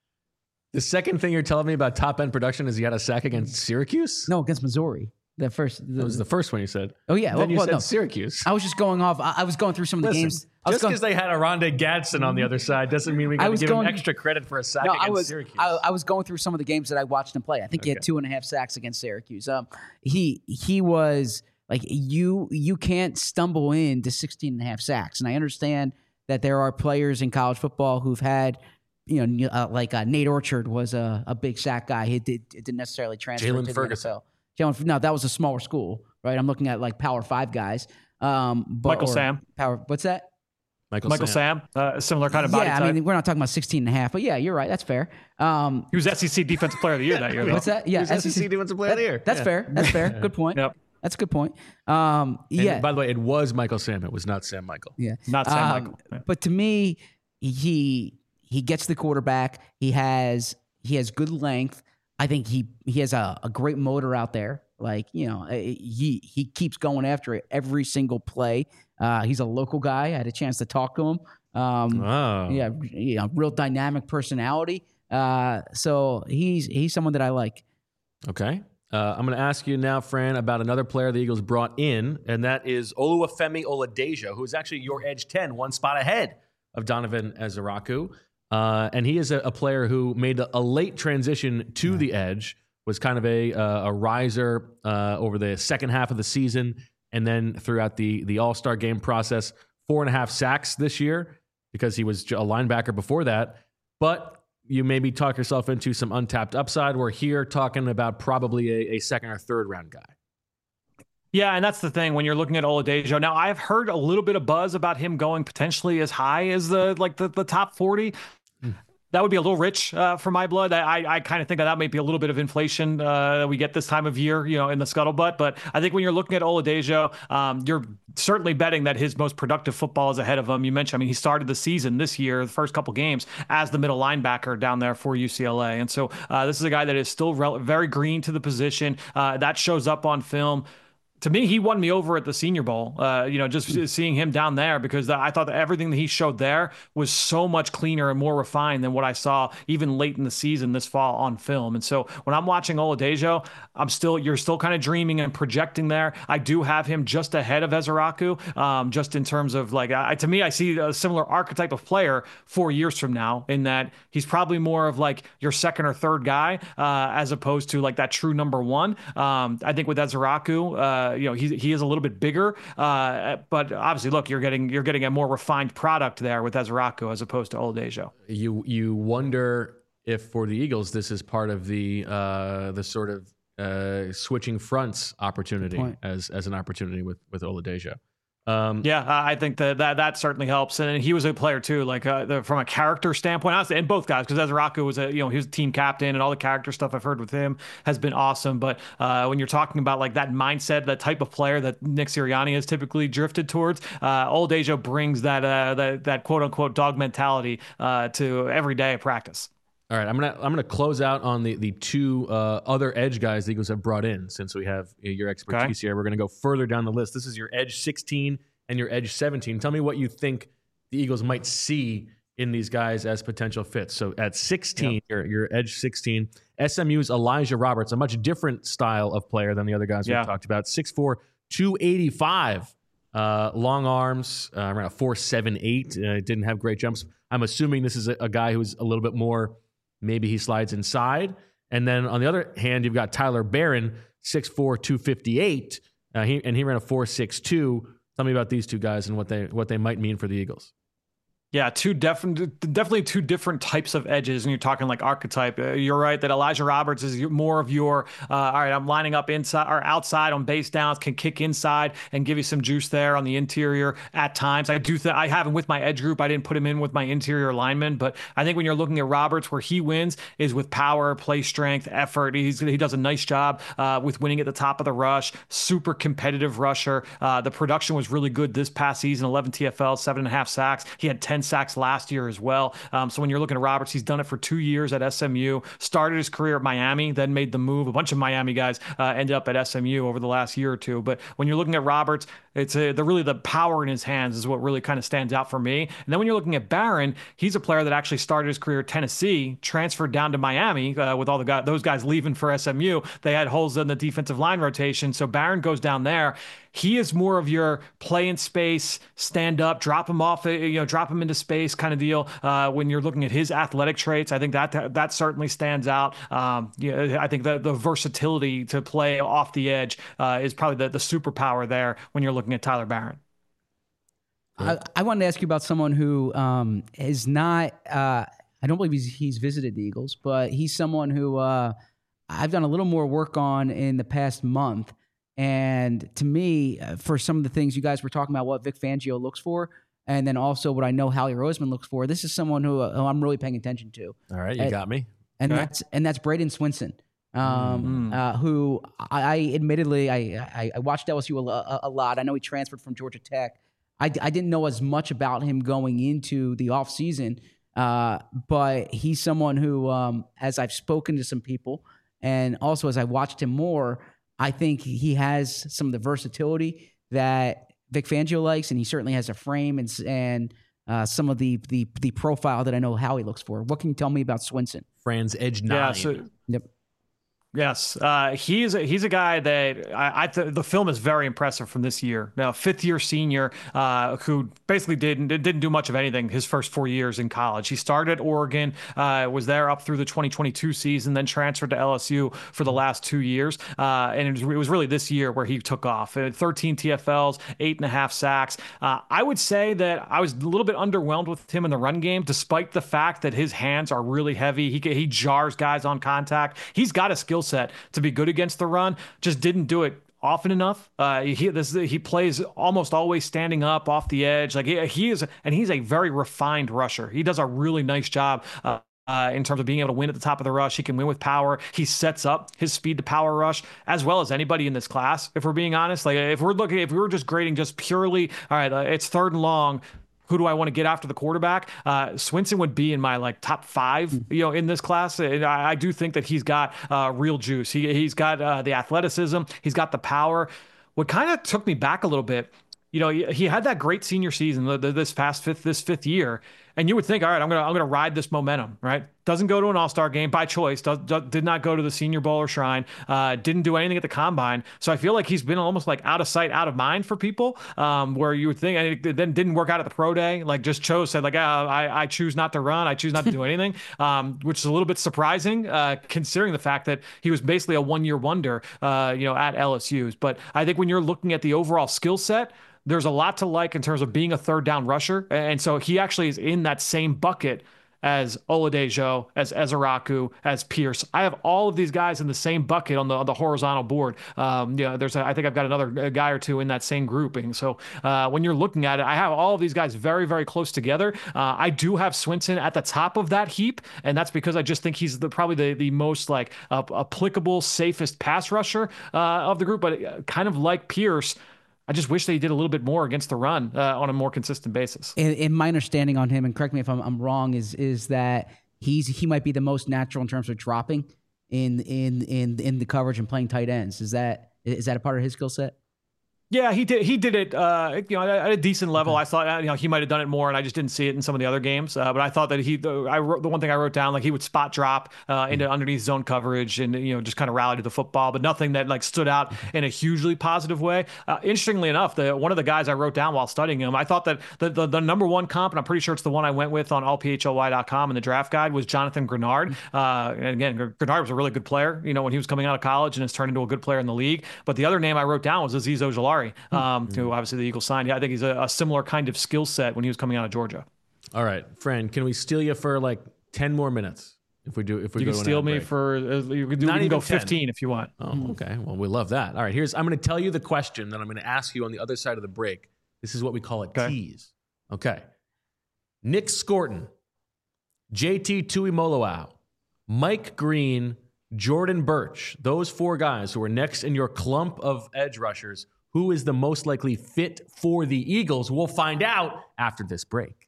The second thing you're telling me about top-end production is he had a sack against Syracuse? No, against Missouri. The first. The, that was the first one you said. Oh, yeah. Then well, you well, said no. Syracuse. I was just going off. I, I was going through some of the Listen, games. I just because they had Aronde Gadsden on the other side doesn't mean we got to give going, him extra credit for a sack no, against I was, Syracuse. I, I was going through some of the games that I watched him play. I think okay. he had two and a half sacks against Syracuse. Um, he he was like, you you can't stumble into sixteen and a half sacks. And I understand that there are players in college football who've had, you know, uh, like uh, Nate Orchard was a, a big sack guy. He did, it didn't necessarily transfer Jalen to Ferguson. the N F L. Jalen, no, that was a smaller school, right? I'm looking at like Power Five guys. Um, but, Michael Sam. Power. What's that? Michael, Michael Sam, Sam uh, similar kind of body yeah, type. I mean, we're not talking about sixteen and a half, but yeah, you're right. That's fair. Um, he was S E C Defensive Player of the Year that year. Though. What's that? Yeah, he was S E C Defensive Player that, of the Year. That's yeah. fair. That's fair. Good point. Yep. That's a good point. Um, yeah. And by the way, it was Michael Sam. It was not Sam Michael. Yeah. Not Sam um, Michael. Yeah. But to me, he he gets the quarterback. He has he has good length. I think he he has a, a great motor out there. Like, you know, he he keeps going after it every single play. Uh, he's a local guy. I had a chance to talk to him. Um, oh. Yeah, you know, real dynamic personality. Uh, so he's he's someone that I like. Okay. Uh, I'm going to ask you now, Fran, about another player the Eagles brought in, and that is Oluwafemi Oladejo, who is actually your edge ten, one spot ahead of Donovan Eziraku. Uh, and he is a, a player who made a, a late transition to yeah. the edge, was kind of a, uh, a riser uh, over the second half of the season, and then throughout the, the All-Star game process, four and a half sacks this year because he was a linebacker before that. But you maybe talk yourself into some untapped upside. We're here talking about probably a, a second or third round guy. Yeah, and that's the thing when you're looking at Oladejo. Now, I've heard a little bit of buzz about him going potentially as high as the like the, the top forty. Mm. That would be a little rich uh, for my blood. I I, I kind of think that that might be a little bit of inflation uh, that we get this time of year, you know, in the scuttlebutt. But I think when you're looking at Oladejo, um, you're certainly betting that his most productive football is ahead of him. You mentioned, I mean, he started the season this year, the first couple games, as the middle linebacker down there for U C L A. And so uh, this is a guy that is still rel- very green to the position. Uh, that shows up on film. To me, he won me over at the Senior Bowl, uh, you know, just seeing him down there, because I thought that everything that he showed there was so much cleaner and more refined than what I saw even late in the season this fall on film. And so when I'm watching Oladejo, I'm still, you're still kind of dreaming and projecting there. I do have him just ahead of Ezeraku, um, just in terms of like, I, to me, I see a similar archetype of player four years from now, in that he's probably more of like your second or third guy, uh, as opposed to like that true number one. Um, I think with Ezeraku, uh, you know, he he is a little bit bigger, uh, but obviously, look, you're getting you're getting a more refined product there with Ezeraku as opposed to Oladejo. You you wonder if for the Eagles this is part of the uh, the sort of uh, switching fronts opportunity as as an opportunity with with Oladejo. Um, yeah, I think that, that that certainly helps, and he was a player too, like uh, the, from a character standpoint, honestly, and both guys, because Ezeraku was a you know he was a team captain, and all the character stuff I've heard with him has been awesome. But uh, when you're talking about like that mindset, that type of player that Nick Sirianni has typically drifted towards, uh, Oladejo brings that uh, that that quote unquote dog mentality uh, to every day of practice. All right, I'm gonna I'm gonna close out on the the two uh, other edge guys the Eagles have brought in, since we have your expertise okay. here. We're gonna go further down the list. This is your edge sixteen and your edge seventeen. Tell me what you think the Eagles might see in these guys as potential fits. So at sixteen, yep. your your edge sixteen, S M U's Elijah Roberts, a much different style of player than the other guys yeah. we've talked about. six four, two eighty-five, uh, long arms, uh, around a four seven eight. Uh, didn't have great jumps. I'm assuming this is a, a guy who's a little bit more. Maybe he slides inside. And then on the other hand, you've got Tyler Barron, six four, two fifty-eight, uh, he, and he ran a four six two. Tell me about these two guys and what they what they might mean for the Eagles. Yeah, two definitely, definitely two different types of edges. And you're talking like archetype. Uh, you're right that Elijah Roberts is more of your, uh, all right, I'm lining up inside or outside on base downs, can kick inside and give you some juice there on the interior at times. I do think I have him with my edge group. I didn't put him in with my interior lineman, but I think when you're looking at Roberts, where he wins is with power, play strength, effort. He's, he does a nice job uh, with winning at the top of the rush. Super competitive rusher. Uh, the production was really good this past season. eleven T F L, seven and a half sacks. He had ten sacks last year as well. Um, so when you're looking at Roberts, he's done it for two years at S M U, started his career at Miami, then made the move. A bunch of Miami guys uh, ended up at S M U over the last year or two. But when you're looking at Roberts, it's a, the really the power in his hands is what really kind of stands out for me. And then when you're looking at Barron, he's a player that actually started his career at Tennessee, transferred down to Miami uh, with all the guys, those guys leaving for S M U. They had holes in the defensive line rotation. So Barron goes down there. He is more of your play in space, stand up, drop him off, you know, drop him into space kind of deal. Uh, when you're looking at his athletic traits, I think that that certainly stands out. Um, you know, I think the, the versatility to play off the edge uh, is probably the, the superpower there when you're looking at Tyler Barron. I, I wanted to ask you about someone who um, is not, uh, I don't believe he's, he's visited the Eagles, but he's someone who uh, I've done a little more work on in the past month. And to me, uh, for some of the things you guys were talking about, what Vic Fangio looks for, and then also what I know Howie Roseman looks for, this is someone who, uh, who I'm really paying attention to. All right, you and, got me. And okay. that's and that's Braden Swinson, um, mm-hmm. uh, who I, I admittedly I, I I watched L S U a, a, a lot. I know he transferred from Georgia Tech. I, I didn't know as much about him going into the offseason, uh, but he's someone who, um, as I've spoken to some people, and also as I watched him more, I think he has some of the versatility that Vic Fangio likes, and he certainly has a frame and and uh, some of the, the the profile that I know Howie looks for. What can you tell me about Swinson? Fran's edge nine. Yeah, so, yep. Yes, uh, he's a, he's a guy that I, I th- the film is very impressive from this year. Now, fifth year senior uh, who basically didn't didn't do much of anything his first four years in college. He started at Oregon, uh, was there up through the twenty twenty-two season, then transferred to L S U for the last two years, uh, and it was, it was really this year where he took off. Uh, thirteen T F Ls, eight and a half sacks. Uh, I would say that I was a little bit underwhelmed with him in the run game, despite the fact that his hands are really heavy. He he jars guys on contact. He's got a skill set to be good against the run, just didn't do it often enough. Uh, he this he plays almost always standing up off the edge. Like he, he is, and he's a very refined rusher. He does a really nice job. Uh, Uh, in terms of being able to win at the top of the rush. He can win with power. He sets up his speed to power rush as well as anybody in this class, if we're being honest. Like if we're looking, if we were just grading just purely, all right, uh, it's third and long, who do I want to get after the quarterback? Uh, Swinson would be in my like top five, you know, in this class. And I, I do think that he's got uh, real juice. He, he's got uh, the athleticism. He's got the power. What kind of took me back a little bit, you know, he, he had that great senior season the, the, this past fifth, this fifth year. And you would think, all right, I'm gonna I'm gonna ride this momentum, right? Doesn't go to an All-Star game by choice. Does, does, did not go to the Senior Bowl or Shrine. Uh, didn't do anything at the Combine. So I feel like he's been almost like out of sight, out of mind for people. Um, where you would think, and it then didn't work out at the pro day. Like just chose said like, ah, I I choose not to run. I choose not to do anything. Um, which is a little bit surprising, uh, considering the fact that he was basically a one-year wonder, uh, you know, at L S U's. But I think when you're looking at the overall skill set, there's a lot to like in terms of being a third down rusher. And so he actually is in that same bucket as Oladejo, as Ezeraku, as Pierce. I have all of these guys in the same bucket on the on the horizontal board. Um, yeah, there's a, I think I've got another guy or two in that same grouping. So uh, when you're looking at it, I have all of these guys very, very close together. Uh, I do have Swinson at the top of that heap, and that's because I just think he's the, probably the, the most like uh, applicable, safest pass rusher uh, of the group. But kind of like Pierce, I just wish they did a little bit more against the run uh, on a more consistent basis. And, and my understanding on him, and correct me if I'm, I'm wrong, is is that he's he might be the most natural in terms of dropping in in in in the coverage and playing tight ends. Is that is that a part of his skill set? Yeah, he did. He did it, uh, you know, at a decent level. Okay. I thought, you know, he might have done it more, and I just didn't see it in some of the other games. Uh, but I thought that he, the, I wrote, the one thing I wrote down, like he would spot drop uh, into underneath zone coverage, and you know, just kind of rally to the football, but nothing that like stood out in a hugely positive way. Uh, interestingly enough, the one of the guys I wrote down while studying him, I thought that the, the the number one comp, and I'm pretty sure it's the one I went with on all P H L Y dot com in the draft guide, was Jonathan Grenard. Uh, and again, Grenard was a really good player, you know, when he was coming out of college, and has turned into a good player in the league. But the other name I wrote down was Azeez Ojulari. Um, who obviously the Eagles signed. Yeah, I think he's a, a similar kind of skill set when he was coming out of Georgia. All right, friend, can we steal you for like ten more minutes? If we do, if we you go can to steal an me break? for, uh, you can, do, Not you can go even ten. fifteen if you want. Oh, okay. Well, we love that. All right, here's, I'm going to tell you the question that I'm going to ask you on the other side of the break. This is what we call a Okay. tease. Okay. Nick Scorton, J T Tuimoloau, Mike Green, Jordan Birch, those four guys who are next in your clump of edge rushers, who is the most likely fit for the Eagles? We'll find out after this break.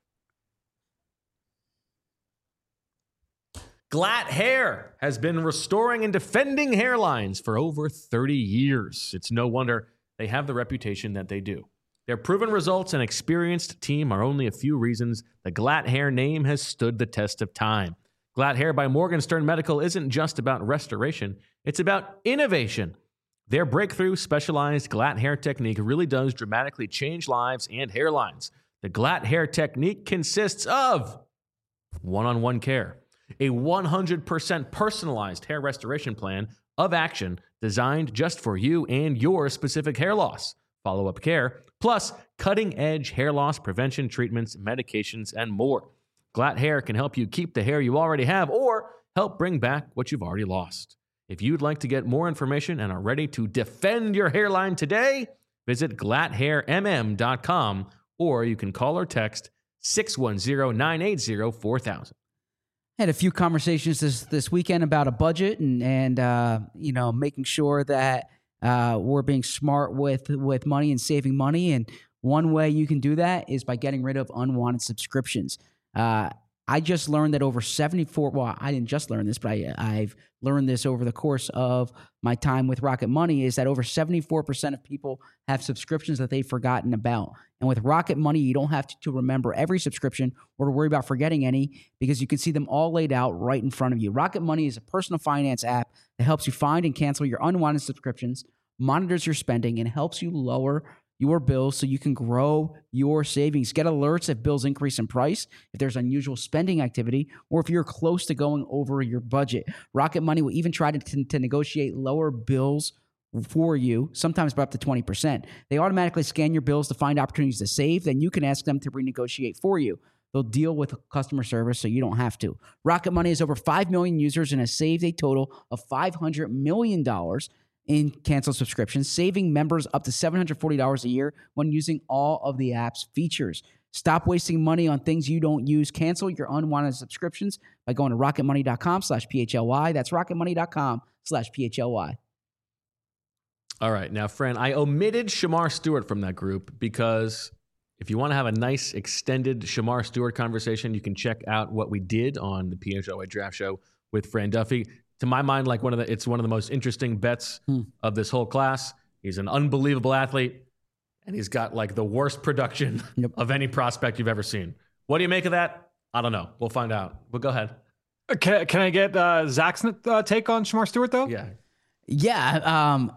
Glatt Hair has been restoring and defending hairlines for over thirty years. It's no wonder they have the reputation that they do. Their proven results and experienced team are only a few reasons the Glatt Hair name has stood the test of time. Glatt Hair by Morgenstern Medical isn't just about restoration, it's about innovation. Their breakthrough specialized Glatt Hair technique really does dramatically change lives and hairlines. The Glatt Hair technique consists of one-on-one care, a one hundred percent personalized hair restoration plan of action designed just for you and your specific hair loss, follow-up care, plus cutting-edge hair loss prevention treatments, medications, and more. Glatt Hair can help you keep the hair you already have or help bring back what you've already lost. If you'd like to get more information and are ready to defend your hairline today, visit glatt hair m m dot com or you can call or text six one zero, nine eight zero, four thousand. Had a few conversations this this weekend about a budget and and uh, you know, making sure that uh, we're being smart with with money and saving money. And one way you can do that is by getting rid of unwanted subscriptions. Uh, I just learned that over seventy-four, well, I didn't just learn this, but I, I've learned this over the course of my time with Rocket Money, is that over seventy-four percent of people have subscriptions that they've forgotten about. And with Rocket Money, you don't have to, to remember every subscription or to worry about forgetting any, because you can see them all laid out right in front of you. Rocket Money is a personal finance app that helps you find and cancel your unwanted subscriptions, monitors your spending, and helps you lower your bills so you can grow your savings. Get alerts if bills increase in price, if there's unusual spending activity, or if you're close to going over your budget. Rocket Money will even try to, to, to negotiate lower bills for you, sometimes by up to twenty percent. They automatically scan your bills to find opportunities to save. Then you can ask them to renegotiate for you. They'll deal with customer service so you don't have to. Rocket Money has over five million users and has saved a total of five hundred million dollars in canceled subscriptions, saving members up to seven hundred forty dollars a year when using all of the app's features. Stop wasting money on things you don't use. Cancel your unwanted subscriptions by going to rocketmoney.com slash PHLY. That's rocketmoney.com slash PHLY. All right. Now, Fran, I omitted Shamar Stewart from that group because if you want to have a nice extended Shamar Stewart conversation, you can check out what we did on the P H L Y Draft Show with Fran Duffy. To my mind, like one of the, it's one of the most interesting bets hmm. of this whole class. He's an unbelievable athlete, and he's got like the worst production yep. of any prospect you've ever seen. What do you make of that? I don't know. We'll find out. But go ahead. Can, can I get uh, Zach's uh, take on Shamar Stewart, though? Yeah. Yeah. Um,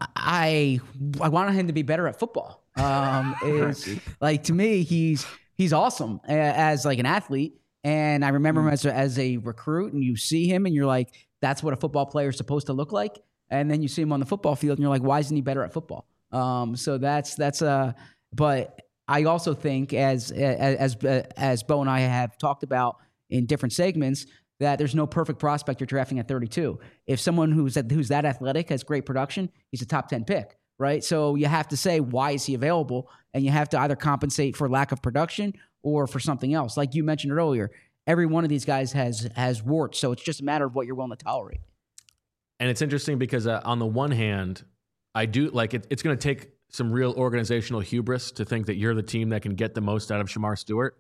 I I wanted him to be better at football. Um, is like, to me, he's he's awesome as like an athlete. And I remember mm. him as a, as a recruit, and you see him and you're like, that's what a football player is supposed to look like. And then you see him on the football field and you're like, why isn't he better at football? Um, so that's, that's uh but I also think as, as, as, as Bo and I have talked about in different segments, that there's no perfect prospect you're drafting at thirty-two. If someone who's who's that athletic has great production, he's a top ten pick, right? So you have to say, why is he available? And you have to either compensate for lack of production or for something else. Like you mentioned earlier, every one of these guys has has warts, so it's just a matter of what you're willing to tolerate. And it's interesting because uh, on the one hand, I do like it, it's going to take some real organizational hubris to think that you're the team that can get the most out of Shamar Stewart.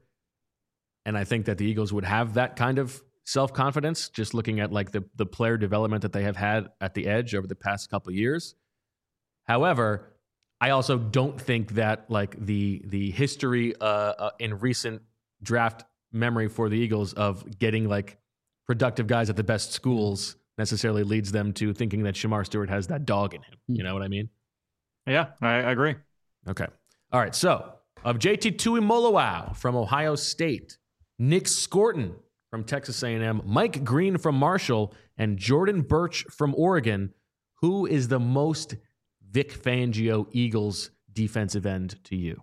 And I think that the Eagles would have that kind of self-confidence, just looking at like the, the player development that they have had at the edge over the past couple of years. However, I also don't think that like the the history uh, uh, in recent draft memory for the Eagles of getting like productive guys at the best schools necessarily leads them to thinking that Shamar Stewart has that dog in him. You know what I mean? Yeah, I, I agree. Okay. All right. So of J T Tuimoloau from Ohio State, Nick Scorton from Texas A and M, Mike Green from Marshall, and Jordan Birch from Oregon, who is the most Vic Fangio Eagles defensive end to you?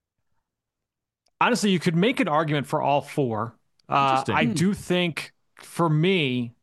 Honestly, you could make an argument for all four. Uh, I do think, for me,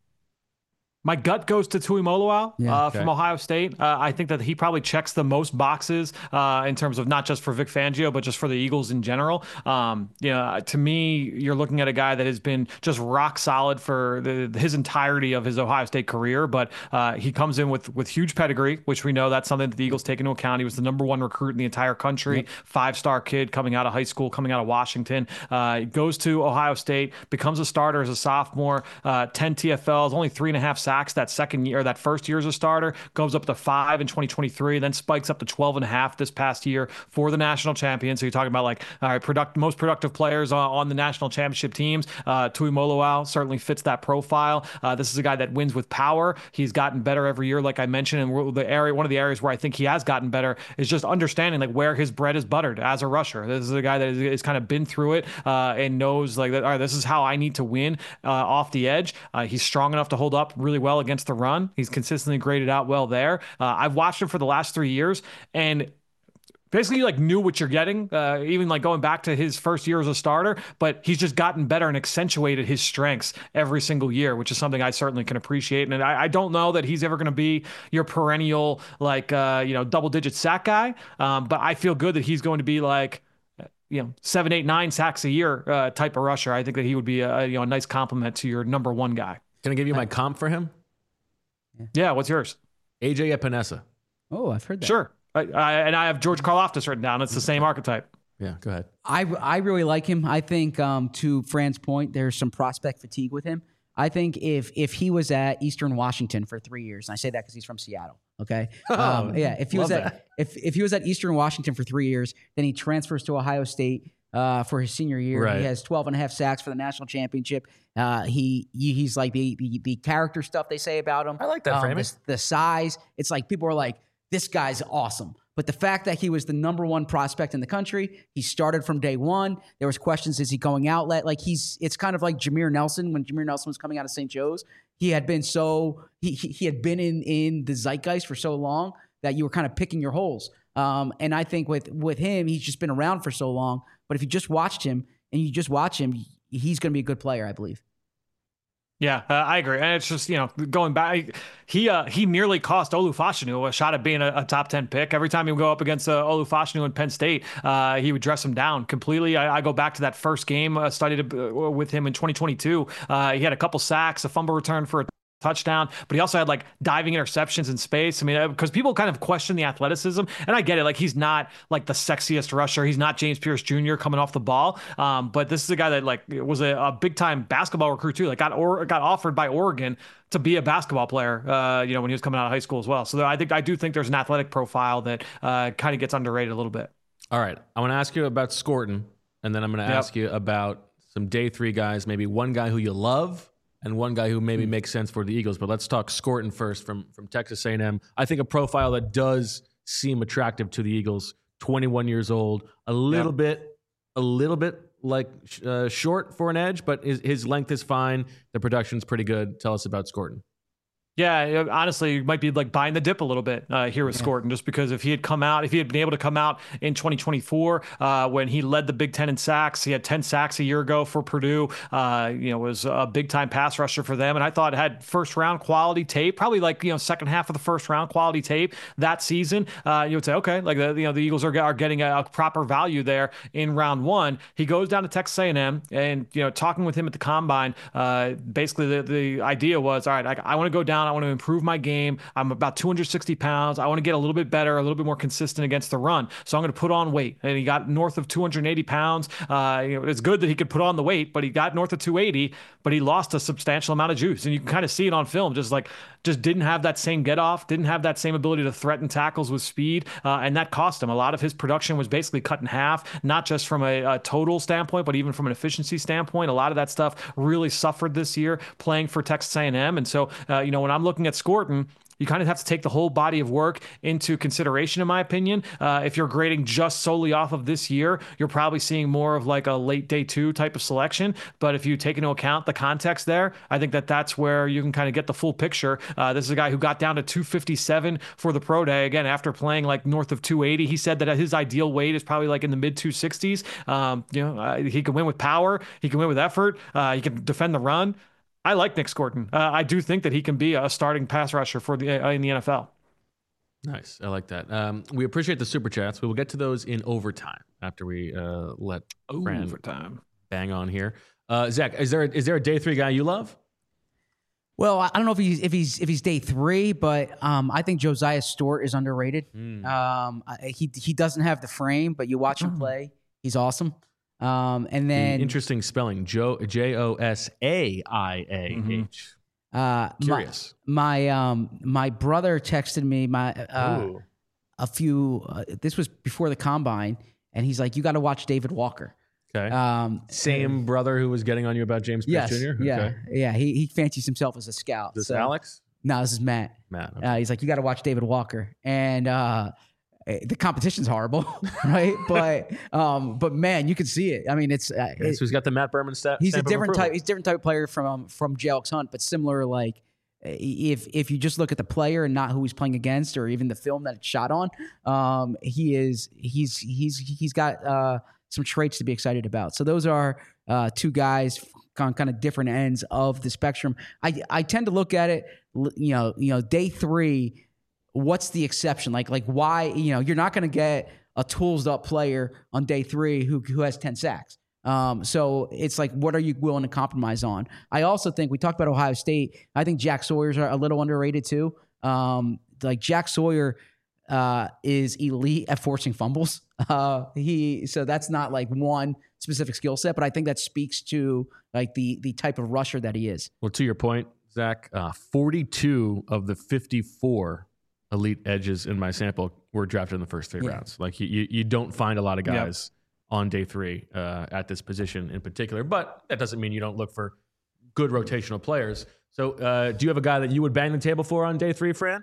my gut goes to Tuimoloau Yeah, uh, okay. from Ohio State. Uh, I think that he probably checks the most boxes uh, in terms of not just for Vic Fangio, but just for the Eagles in general. Um, you know, to me, you're looking at a guy that has been just rock solid for the, his entirety of his Ohio State career. But uh, he comes in with with huge pedigree, which we know that's something that the Eagles take into account. He was the number one recruit in the entire country, yep. five-star kid coming out of high school, coming out of Washington. Uh, goes to Ohio State, becomes a starter as a sophomore, uh, ten T F Ls, only three and a half sacks that second year, that first year as a starter, goes up to five in twenty twenty-three, then spikes up to twelve and a half this past year for the national champion. So you're talking about like, all right, product, most productive players on, on the national championship teams. Uh, Tuimoloau certainly fits that profile. Uh, this is a guy that wins with power. He's gotten better every year, like I mentioned, and the area, one of the areas where I think he has gotten better is just understanding like where his bread is buttered as a rusher. This is a guy that has, has kind of been through it uh, and knows like that. All right, this is how I need to win uh, off the edge. Uh, he's strong enough to hold up really well against the run. He's consistently graded out well there. Uh, I've watched him for the last three years and basically you like knew what you're getting, uh, even like going back to his first year as a starter, but he's just gotten better and accentuated his strengths every single year, which is something I certainly can appreciate. And I, I don't know that he's ever going to be your perennial, like, uh, you know, double digit sack guy. Um, but I feel good that he's going to be like, you know, seven, eight, nine sacks a year uh, type of rusher. I think that he would be a, you know, a nice compliment to your number one guy. Can I give you my comp for him? Yeah, what's yours? A J Epinesa. Oh, I've heard that. Sure. I, I, and I have George Karlaftis written down. It's the same archetype. Yeah, go ahead. I, I really like him. I think, um, to Fran's point, there's some prospect fatigue with him. I think if if he was at Eastern Washington for three years, and I say that because he's from Seattle, okay? Um, Oh, yeah, if he was love at that. if if he was at Eastern Washington for three years, then he transfers to Ohio State uh, for his senior year. Right. He has twelve and a half sacks for the national championship. Uh, he, he he's like the, the the character stuff they say about him. I like that um, framing. The, the size. It's like people are like, this guy's awesome. But the fact that he was the number one prospect in the country, he started from day one. There was questions: is he going outlet? Like he's, it's kind of like Jameer Nelson when Jameer Nelson was coming out of Saint Joe's. He had been so he he, he had been in in the zeitgeist for so long that you were kind of picking your holes. Um, and I think with with him, he's just been around for so long. But if you just watched him and you just watch him, he's going to be a good player, I believe. Yeah, uh, I agree. And it's just, you know, going back, he uh, he nearly cost Olufashinu a shot at being a, a top ten pick. Every time he would go up against uh, Olufashinu in Penn State, uh, he would dress him down completely. I, I go back to that first game uh, studied uh, with him in twenty twenty-two. Uh, he had a couple sacks, a fumble return for a touchdown, but he also had like diving interceptions in space. I mean, because people kind of question the athleticism, and I get it. Like he's not like the sexiest rusher. He's not James Pierce Junior coming off the ball. Um, but this is a guy that like was a, a big time basketball recruit too. Like got or got offered by Oregon to be a basketball player. Uh, you know, when he was coming out of high school as well. So I think I do think there's an athletic profile that uh, kind of gets underrated a little bit. All right. I want to ask you about Scorton, and then I'm going to Yep. ask you about some day three guys, maybe one guy who you love and one guy who maybe makes sense for the Eagles. But let's talk Scorton first from, from Texas A and M. I think a profile that does seem attractive to the Eagles, twenty-one years old, a little Yep. bit, a little bit like uh, short for an edge, but his, his length is fine. The production's pretty good. Tell us about Scorton. Yeah, honestly, you might be like buying the dip a little bit uh, here with Yeah. Scorton, just because if he had come out, if he had been able to come out in twenty twenty-four uh, when he led the Big Ten in sacks, he had ten sacks a year ago for Purdue. Uh, you know, was a big time pass rusher for them, and I thought had first round quality tape, probably like you know second half of the first round quality tape that season. Uh, you would say, okay, like the you know the Eagles are are getting a, a proper value there in round one. He goes down to Texas A and M, and you know talking with him at the combine, uh, basically the the idea was, all right, I, I want to go down. I want to improve my game. I'm about two hundred sixty pounds. I want to get a little bit better, a little bit more consistent against the run. So I'm going to put on weight. And he got north of two hundred eighty pounds. Uh, you know, it's good that he could put on the weight, but he got north of two eighty, but he lost a substantial amount of juice. And you can kind of see it on film, just like, just didn't have that same get off, didn't have that same ability to threaten tackles with speed. Uh, and that cost him. A lot of his production was basically cut in half, not just from a, a total standpoint, but even from an efficiency standpoint. A lot of that stuff really suffered this year playing for Texas A and M. And so, uh, you know, when I'm looking at Scorton, you kind of have to take the whole body of work into consideration, in my opinion. Uh, if you're grading just solely off of this year, you're probably seeing more of like a late day two type of selection. But if you take into account the context there, I think that that's where you can kind of get the full picture. Uh, this is a guy who got down to two fifty-seven for the pro day. Again, after playing like north of two eighty, he said that his ideal weight is probably like in the mid two sixties. Um, you know, uh, he can win with power. He can win with effort. Uh, he can defend the run. I like Nick Scorton. Uh, I do think that he can be a starting pass rusher for the uh, in the N F L. Nice. I like that. Um, we appreciate the super chats. We will get to those in overtime after we uh, let Fran Overtime. bang on here. Uh, Zach, is there, a, is there a day three guy you love? Well, I don't know if he's if he's if he's day three, but um, I think Josiah Stewart is underrated. Mm. Um, I- he he doesn't have the frame, but you watch him play, he's awesome. Um, and then Interesting spelling. Jo- J O S A I A H. uh, my, Curious. my um my brother texted me my uh, Ooh. a few. Uh, this was before the combine, and he's like, "You got to watch David Walker." Okay. Um, Same brother who was getting on you about James Pierce yes, Junior? yeah, Okay. yeah. He he fancies himself as a scout. Is this so- Alex? No, this is Matt. Matt. Okay. Uh, he's like, you got to watch David Walker, and uh, the competition's horrible, right? But um, but man, you can see it. I mean, it's uh, Okay, it- so he's got the Matt Berman stat. he's a stamp of different approval. type. He's a different type of player from um, from J L X Hunt, but similar. Like if if you just look at the player and not who he's playing against, or even the film that it's shot on, um, he is he's he's he's got uh, some traits to be excited about. So those are uh, two guys on kind of different ends of the spectrum. I I tend to look at it, you know, you know, day three. What's the exception? Like like why you know you're not going to get a tools up player on day three who who has ten sacks. Um, so it's like, what are you willing to compromise on? I also think we talked about Ohio State. I think Jack Sawyer's a little underrated too. Um, like Jack Sawyer uh, is elite at forcing fumbles. Uh, he so that's not like one specific skill set, but I think that speaks to like the the type of rusher that he is. Well, to your point, Zach, uh, forty-two of the fifty-four elite edges in my sample were drafted in the first three Yeah. rounds. Like you, you, you don't find a lot of guys yep. on day three uh, at this position in particular, but that doesn't mean you don't look for good rotational players. So uh, do you have a guy that you would bang the table for on day three, Fran?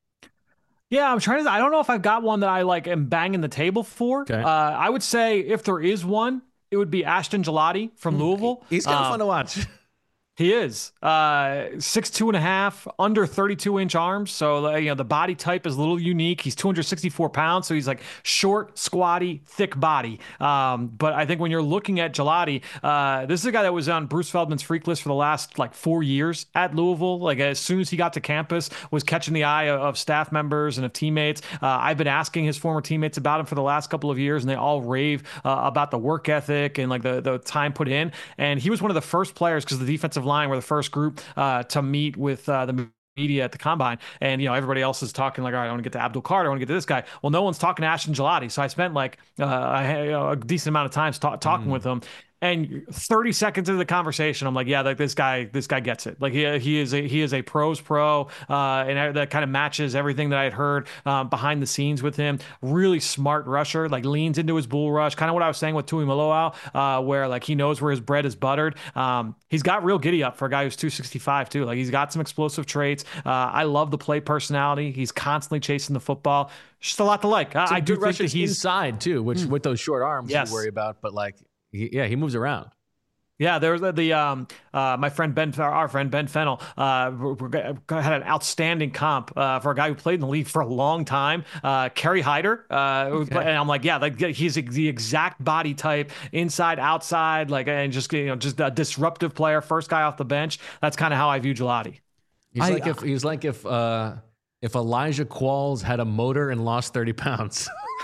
Yeah, I'm trying to, I don't know if I've got one that I like am banging the table for. Okay. Uh, I would say if there is one, it would be Ashton Gelati from Louisville. He's kind of uh, fun to watch. He is uh, six two and a half, under thirty-two inch arms. So uh, you know the body type is a little unique. He's two hundred sixty-four pounds, so he's like short, squatty, thick body. Um, but I think when you're looking at Gelati, uh, this is a guy that was on Bruce Feldman's freak list for the last like four years at Louisville. Like as soon as he got to campus, was catching the eye of, of staff members and of teammates. Uh, I've been asking his former teammates about him for the last couple of years, and they all rave uh, about the work ethic and like the the time put in. And he was one of the first players because the defensive line were the first group uh, to meet with uh, the media at the combine. And, you know, everybody else is talking like, all right, I want to get to Abdul Carter. I want to get to this guy. Well, no one's talking to Ashton Gelati. So I spent like uh, a, a decent amount of time ta- talking mm. with him. And thirty seconds into the conversation, I'm like, yeah, like this guy, this guy gets it. Like he he is a he is a pros pro, uh, and that kind of matches everything that I had heard um, behind the scenes with him. Really smart rusher, like leans into his bull rush, kind of what I was saying with Tui Maloau, uh, where like he knows where his bread is buttered. Um, he's got real giddy up for a guy who's two sixty-five too. Like he's got some explosive traits. Uh, I love the play personality. He's constantly chasing the football. Just a lot to like. I, I do think that he's inside too, which mm. with those short arms yes. you worry about, but like. He, yeah, he moves around. Yeah, there's the, the um uh my friend Ben, our friend Ben Fennell, uh had an outstanding comp uh for a guy who played in the league for a long time. Uh, Kerry Hyder, uh, okay. and I'm like, yeah, like he's the exact body type, inside, outside, like and just you know just a disruptive player, first guy off the bench. That's kind of how I view Gelati. He's I, like if he's like if uh if Elijah Qualls had a motor and lost thirty pounds.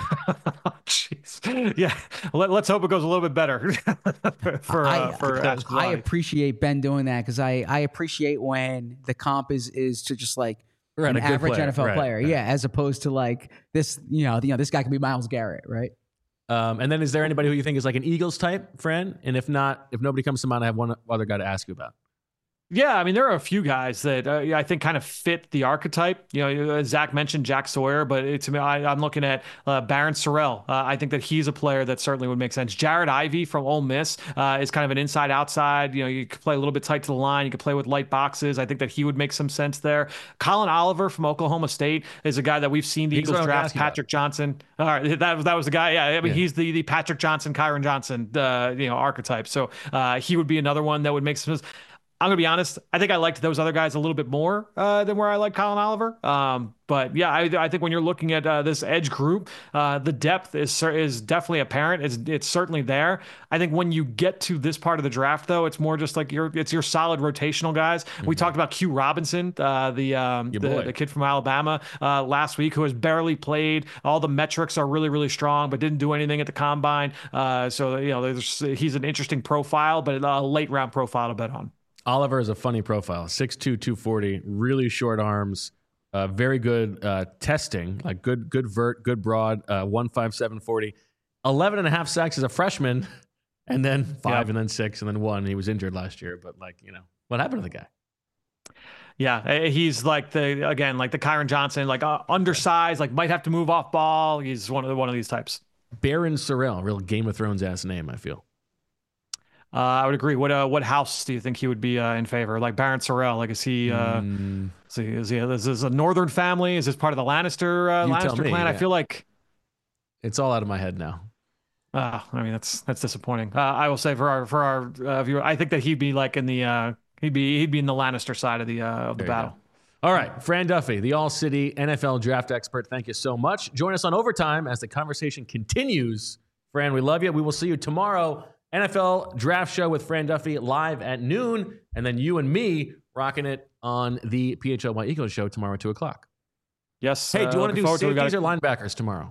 Jeez. Yeah. Let, let's hope it goes a little bit better for uh, I, for I, I I appreciate Ben doing that because I, I appreciate when the comp is is to just like right, an average player. N F L right, player. right. Yeah, as opposed to like this, you know, you know, this guy can be Myles Garrett, right? Um, and then is there anybody who you think is like an Eagles type, Fran? And if not, if nobody comes to mind, I have one other guy to ask you about. Yeah, I mean, there are a few guys that uh, I think kind of fit the archetype. You know, Zach mentioned Jack Sawyer, but it, to me, I, I'm looking at uh, Barron Sorrell. Uh, I think that he's a player that certainly would make sense. Jared Ivey from Ole Miss uh, is kind of an inside-outside. You know, you could play a little bit tight to the line. You could play with light boxes. I think that he would make some sense there. Colin Oliver from Oklahoma State is a guy that we've seen the he's Eagles draft. Patrick about. Johnson. All right, that was that was the guy. Yeah, I mean, yeah. he's the the Patrick Johnson, Kyron Johnson, uh, you know, archetype. So uh, he would be another one that would make some sense. I'm going to be honest. I think I liked those other guys a little bit more uh, than where I like Colin Oliver. Um, but yeah, I, I think when you're looking at uh, this edge group, uh, the depth is is definitely apparent. It's it's certainly there. I think when you get to this part of the draft, though, it's more just like your it's your solid rotational guys. Mm-hmm. We talked about Q Robinson, uh, the, um, the the kid from Alabama uh, last week, who has barely played. All the metrics are really really strong, but didn't do anything at the combine. Uh, so you know, there's, he's an interesting profile, but a late round profile to bet on. Oliver is a funny profile, six two, two forty, really short arms, uh, very good uh, testing, like good good vert, good broad, uh, one fifty-seven forty, eleven and a half sacks as a freshman, and then five yep. and then six and then one. He was injured last year, but like, you know, what happened to the guy? Yeah, he's like the, again, like the Kyron Johnson, like uh, undersized, like might have to move off ball. He's one of the, one of these types. Barron Sorrell, real Game of Thrones ass name, I feel. Uh, I would agree. What uh, what house do you think he would be uh, in favor? Like Barron Sorrell, like is he? Uh, mm. Is he? Is he? Is this a northern family? Is this part of the Lannister uh, Lannister me, clan? Yeah. I feel like it's all out of my head now. Uh, I mean, that's that's disappointing. Uh, I will say for our for our uh, viewer, I think that he'd be like in the uh, he'd be he'd be in the Lannister side of the uh, of the there battle. All right, Fran Duffy, the All City N F L draft expert. Thank you so much. Join us on Overtime as the conversation continues. Fran, we love you. We will see you tomorrow. N F L Draft Show with Fran Duffy live at noon, and then you and me rocking it on the P H L Y Eagles show tomorrow at two o'clock. Yes. Hey, do you uh, want to do safeties to or linebackers tomorrow?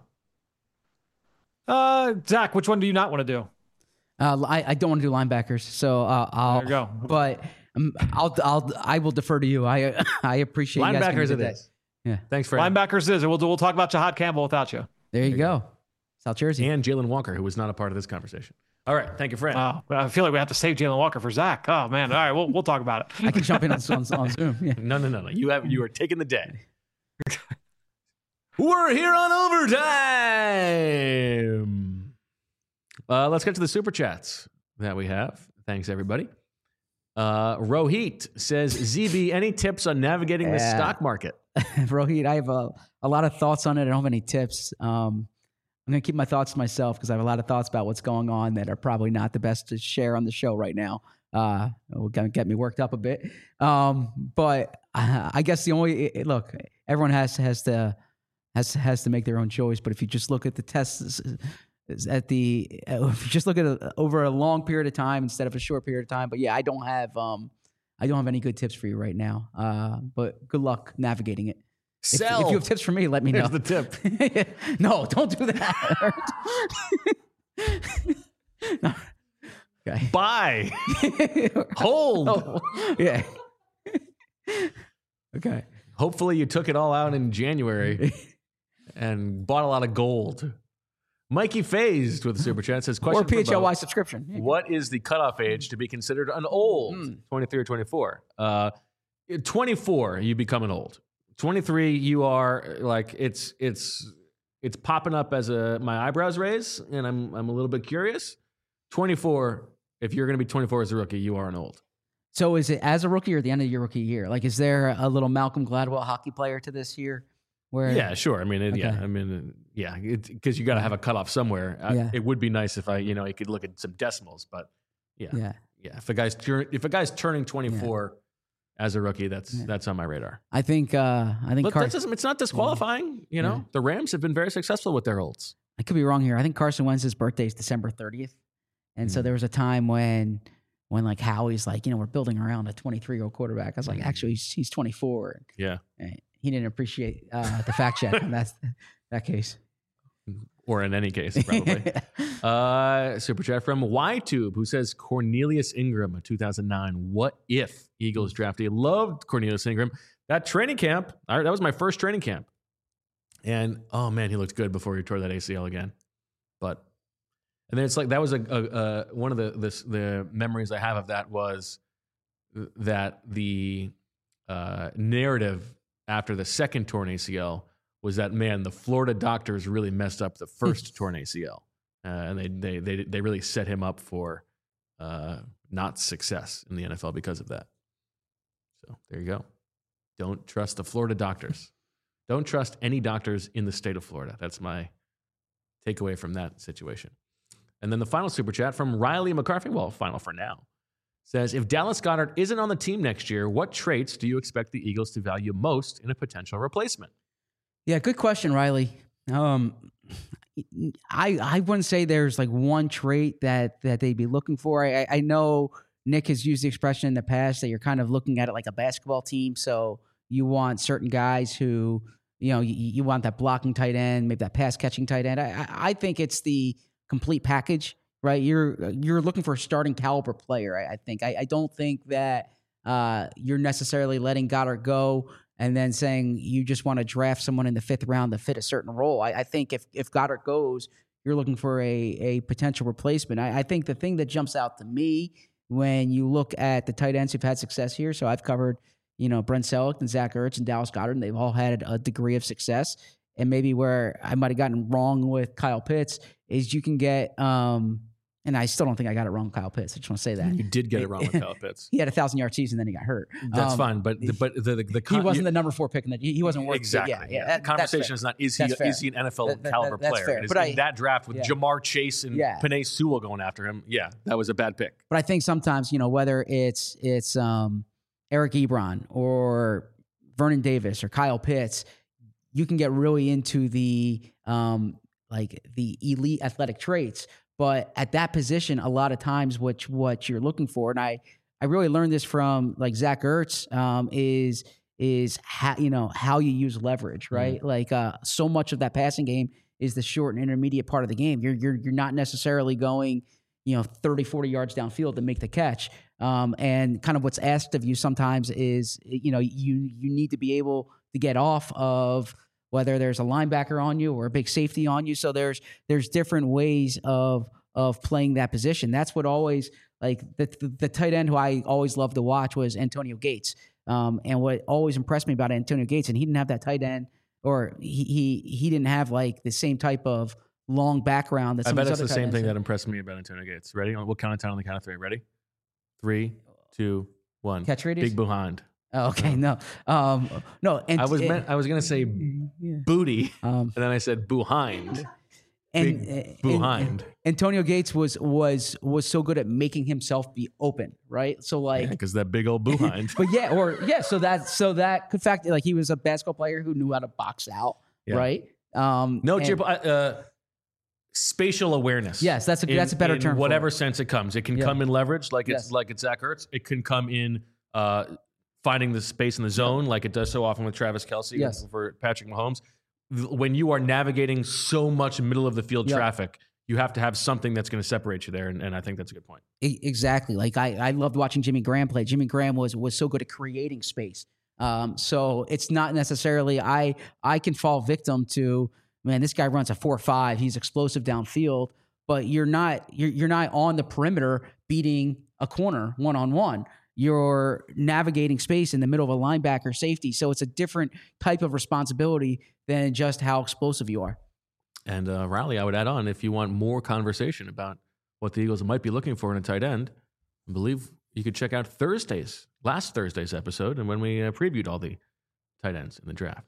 Uh, Zach, which one do you not want to do? Uh, I, I don't want to do linebackers, so uh, I'll. There you go. But um, I'll I'll I will defer to you. I I appreciate linebackers you it guys is. Yeah. Thanks for linebackers is. We'll we'll talk about Jahad Campbell without you. There you, there you go. go. South Jersey. And Jalen Walker, who was not a part of this conversation. All right. Thank you, Fran. Oh, I feel like we have to save Jalen Walker for Zach. Oh, man. All right. We'll, we'll talk about it. I can jump in on, on, on Zoom. Yeah. No, no, no, no. You have you are taking the day. We're here on overtime. Uh, let's get to the super chats that we have. Thanks, everybody. Uh, Rohit says, Z B, any tips on navigating the Yeah. stock market? Rohit, I have a, a lot of thoughts on it. I don't have any tips. Um, I'm going to keep my thoughts to myself because I have a lot of thoughts about what's going on that are probably not the best to share on the show right now. Uh, it will kind of get me worked up a bit. Um, but uh, I guess the only it, look, everyone has has to has has to make their own choice. But if you just look at the tests at the if you just look at it over a long period of time instead of a short period of time. But yeah, I don't have um, I don't have any good tips for you right now. Uh, but good luck navigating it. If, Sell. if you have tips for me, let me know. Here's the tip. No, don't do that. No. Okay. Buy. Hold. Oh, yeah. Okay. Hopefully you took it all out in January and bought a lot of gold. Mikey Phased with the super chat says, question Or P H L Y for both. subscription. What is the cutoff age to be considered an old? Mm. twenty-three or twenty-four? Uh, twenty-four, you become an old. twenty-three, you are like it's it's it's popping up as a my eyebrows raise, and I'm I'm a little bit curious. twenty-four, if you're going to be twenty-four as a rookie, you are an old. So is it as a rookie or the end of your rookie year? Like, is there a little Malcolm Gladwell hockey player to this year? Where Yeah, sure. I mean, it, yeah. Okay. I mean, yeah, because you got to have a cutoff somewhere. I- Yeah. it would be nice if I, you know, you could look at some decimals, but yeah, yeah. Yeah. If a guy's turn, if a guy's turning twenty-four as a rookie, that's Yeah. that's on my radar. I think uh, I think But Car- that doesn't, it's not disqualifying. You know, Yeah. the Rams have been very successful with their olds. I could be wrong here. I think Carson Wentz's birthday is December thirtieth. And so Mm. there was a time when when like Howie's like, you know, we're building around a twenty-three-year-old quarterback. I was like, Mm. actually, he's, he's twenty-four. Yeah. And he didn't appreciate uh, the fact check in that, that case. Or in any case, probably. uh, super chat from YTube, who says Cornelius Ingram, two thousand nine. What if Eagles draftee? Loved Cornelius Ingram. That training camp, I- that was my first training camp. And oh man, he looked good before he tore that A C L again. But and then it's like that was a, a, a one of the this, the memories I have of that was that the uh, narrative after the second torn A C L was that, man, the Florida doctors really messed up the first torn A C L, uh, and they, they they they really set him up for uh, not success in the N F L because of that. So there you go. Don't trust the Florida doctors. Don't trust any doctors in the state of Florida. That's my takeaway from that situation. And then the final super chat from Riley McCarthy, well, final for now, says, if Dallas Goedert isn't on the team next year, what traits do you expect the Eagles to value most in a potential replacement? Yeah, good question, Riley. Um, I I wouldn't say there's like one trait that that they'd be looking for. I, I know Nick has used the expression in the past that you're kind of looking at it like a basketball team. So you want certain guys who, you know, you, you want that blocking tight end, maybe that pass catching tight end. I, I I think it's the complete package, right? You're you're looking for a starting caliber player. I, I think. I, I don't think that uh, you're necessarily letting Goddard go and then saying you just want to draft someone in the fifth round to fit a certain role. I, I think if if Goddard goes, you're looking for a a potential replacement. I, I think the thing that jumps out to me when you look at the tight ends who've had success here, so I've covered, you know, Brent Selleck and Zach Ertz and Dallas Goedert, and they've all had a degree of success. And maybe where I might have gotten wrong with Kyle Pitts is you can get, um, and I still don't think I got it wrong with Kyle Pitts. I just want to say that. You did get it wrong with Kyle Pitts. He had a thousand-yard season, then he got hurt. That's Um, fine, but the, but the the, the He con- wasn't the number four pick in the. He wasn't worth exactly. Yeah, yeah. The that- that's conversation fair. is not is he That's fair. is he an N F L That- that- caliber that's player? fair. It is But I- in that draft with yeah. Jamar Chase and Yeah. Penei Sewell going after him. Yeah, that was a bad pick. But I think sometimes, you know, whether it's it's um, Eric Ebron or Vernon Davis or Kyle Pitts, you can get really into the um, like the elite athletic traits. But at that position, a lot of times, what what you're looking for, and I I really learned this from like Zach Ertz, um, is is how you know how you use leverage, right? Like uh, so much of that passing game is the short and intermediate part of the game. You're you're you're not necessarily going, you know, thirty, forty yards downfield to make the catch. Um, and kind of what's asked of you sometimes is, you know, you you need to be able to get off of whether there's a linebacker on you or a big safety on you. So there's there's different ways of of playing that position. That's what always like the the, the tight end who I always loved to watch was Antonio Gates. Um, and what always impressed me about Antonio Gates, and he didn't have that tight end, or he he he didn't have like the same type of long background that I some bet of it's these the other tight same ends thing did. that impressed me about Antonio Gates. Ready? We'll count it down on the count of three. Ready? Three, two, one. Catch radius? Big behind. Oh, okay, no, um, no. And I was and- meant, I was gonna say yeah. booty, Um, and then I said behind. and, Big and- behind. and Antonio Gates was was was so good at making himself be open, right? So like, Because that big old behind. but yeah, or yeah, so that so that could fact like he was a basketball player who knew how to box out, Yeah. right? Um, No, and- Jib, uh, spatial awareness. Yes, that's a- In- that's a better in term for Whatever it. sense it comes, it can Yeah. come in leverage, like it's Yes. like it's Zach Ertz. It can come in uh, finding the space in the zone, like it does so often with Travis Kelce Yes. for Patrick Mahomes. When you are navigating so much middle of the field Yeah. traffic, you have to have something that's going to separate you there, and, and I think that's a good point. E- Exactly. Like I, I loved watching Jimmy Graham play. Jimmy Graham was was so good at creating space. Um, so it's not necessarily I I can fall victim to, man, this guy runs a four five. He's explosive downfield, but you're not you're you're not on the perimeter beating a corner one on one. You're navigating space in the middle of a linebacker safety. So it's a different type of responsibility than just how explosive you are. And uh, Riley, I would add on, if you want more conversation about what the Eagles might be looking for in a tight end, I believe you could check out Thursday's, last Thursday's episode, and when we uh, previewed all the tight ends in the draft.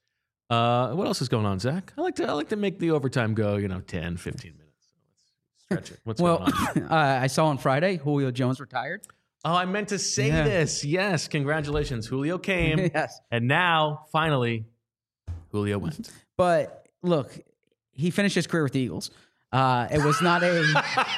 Uh, what else is going on, Zach? I like to I like to make the overtime go, you know, ten, fifteen minutes. So let's stretch it. What's Well, going on? uh, I saw on Friday Julio Jones retired. Oh, I meant to say Yeah. this. Yes, congratulations. Julio came, Yes. and now, finally, Julio went. But look, he finished his career with the Eagles. Uh, it was not a.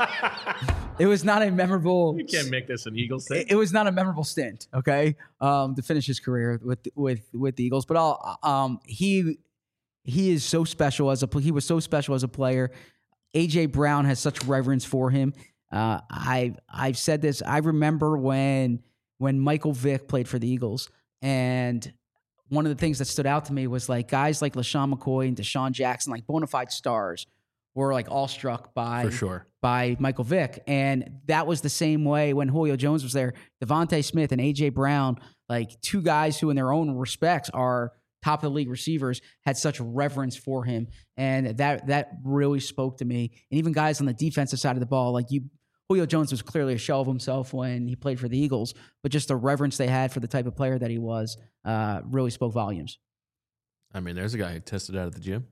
It was not a memorable. You can't make this an Eagles thing. It, it was not a memorable stint. Okay, um, to finish his career with with with the Eagles, but all um, he he is so special as a he was so special as a player. A J Brown has such reverence for him. Uh, I I've said this. I remember when when Michael Vick played for the Eagles, and one of the things that stood out to me was like guys like LaShawn McCoy and Deshaun Jackson, like bona fide stars, were like awestruck by For sure. by Michael Vick. And that was the same way when Julio Jones was there. Devontae Smith and A J Brown, like two guys who in their own respects are top of the league receivers, had such reverence for him. And that that really spoke to me. And even guys on the defensive side of the ball, like you, Julio Jones was clearly a shell of himself when he played for the Eagles, but just the reverence they had for the type of player that he was uh, really spoke volumes. I mean, there's a guy who tested out at the gym.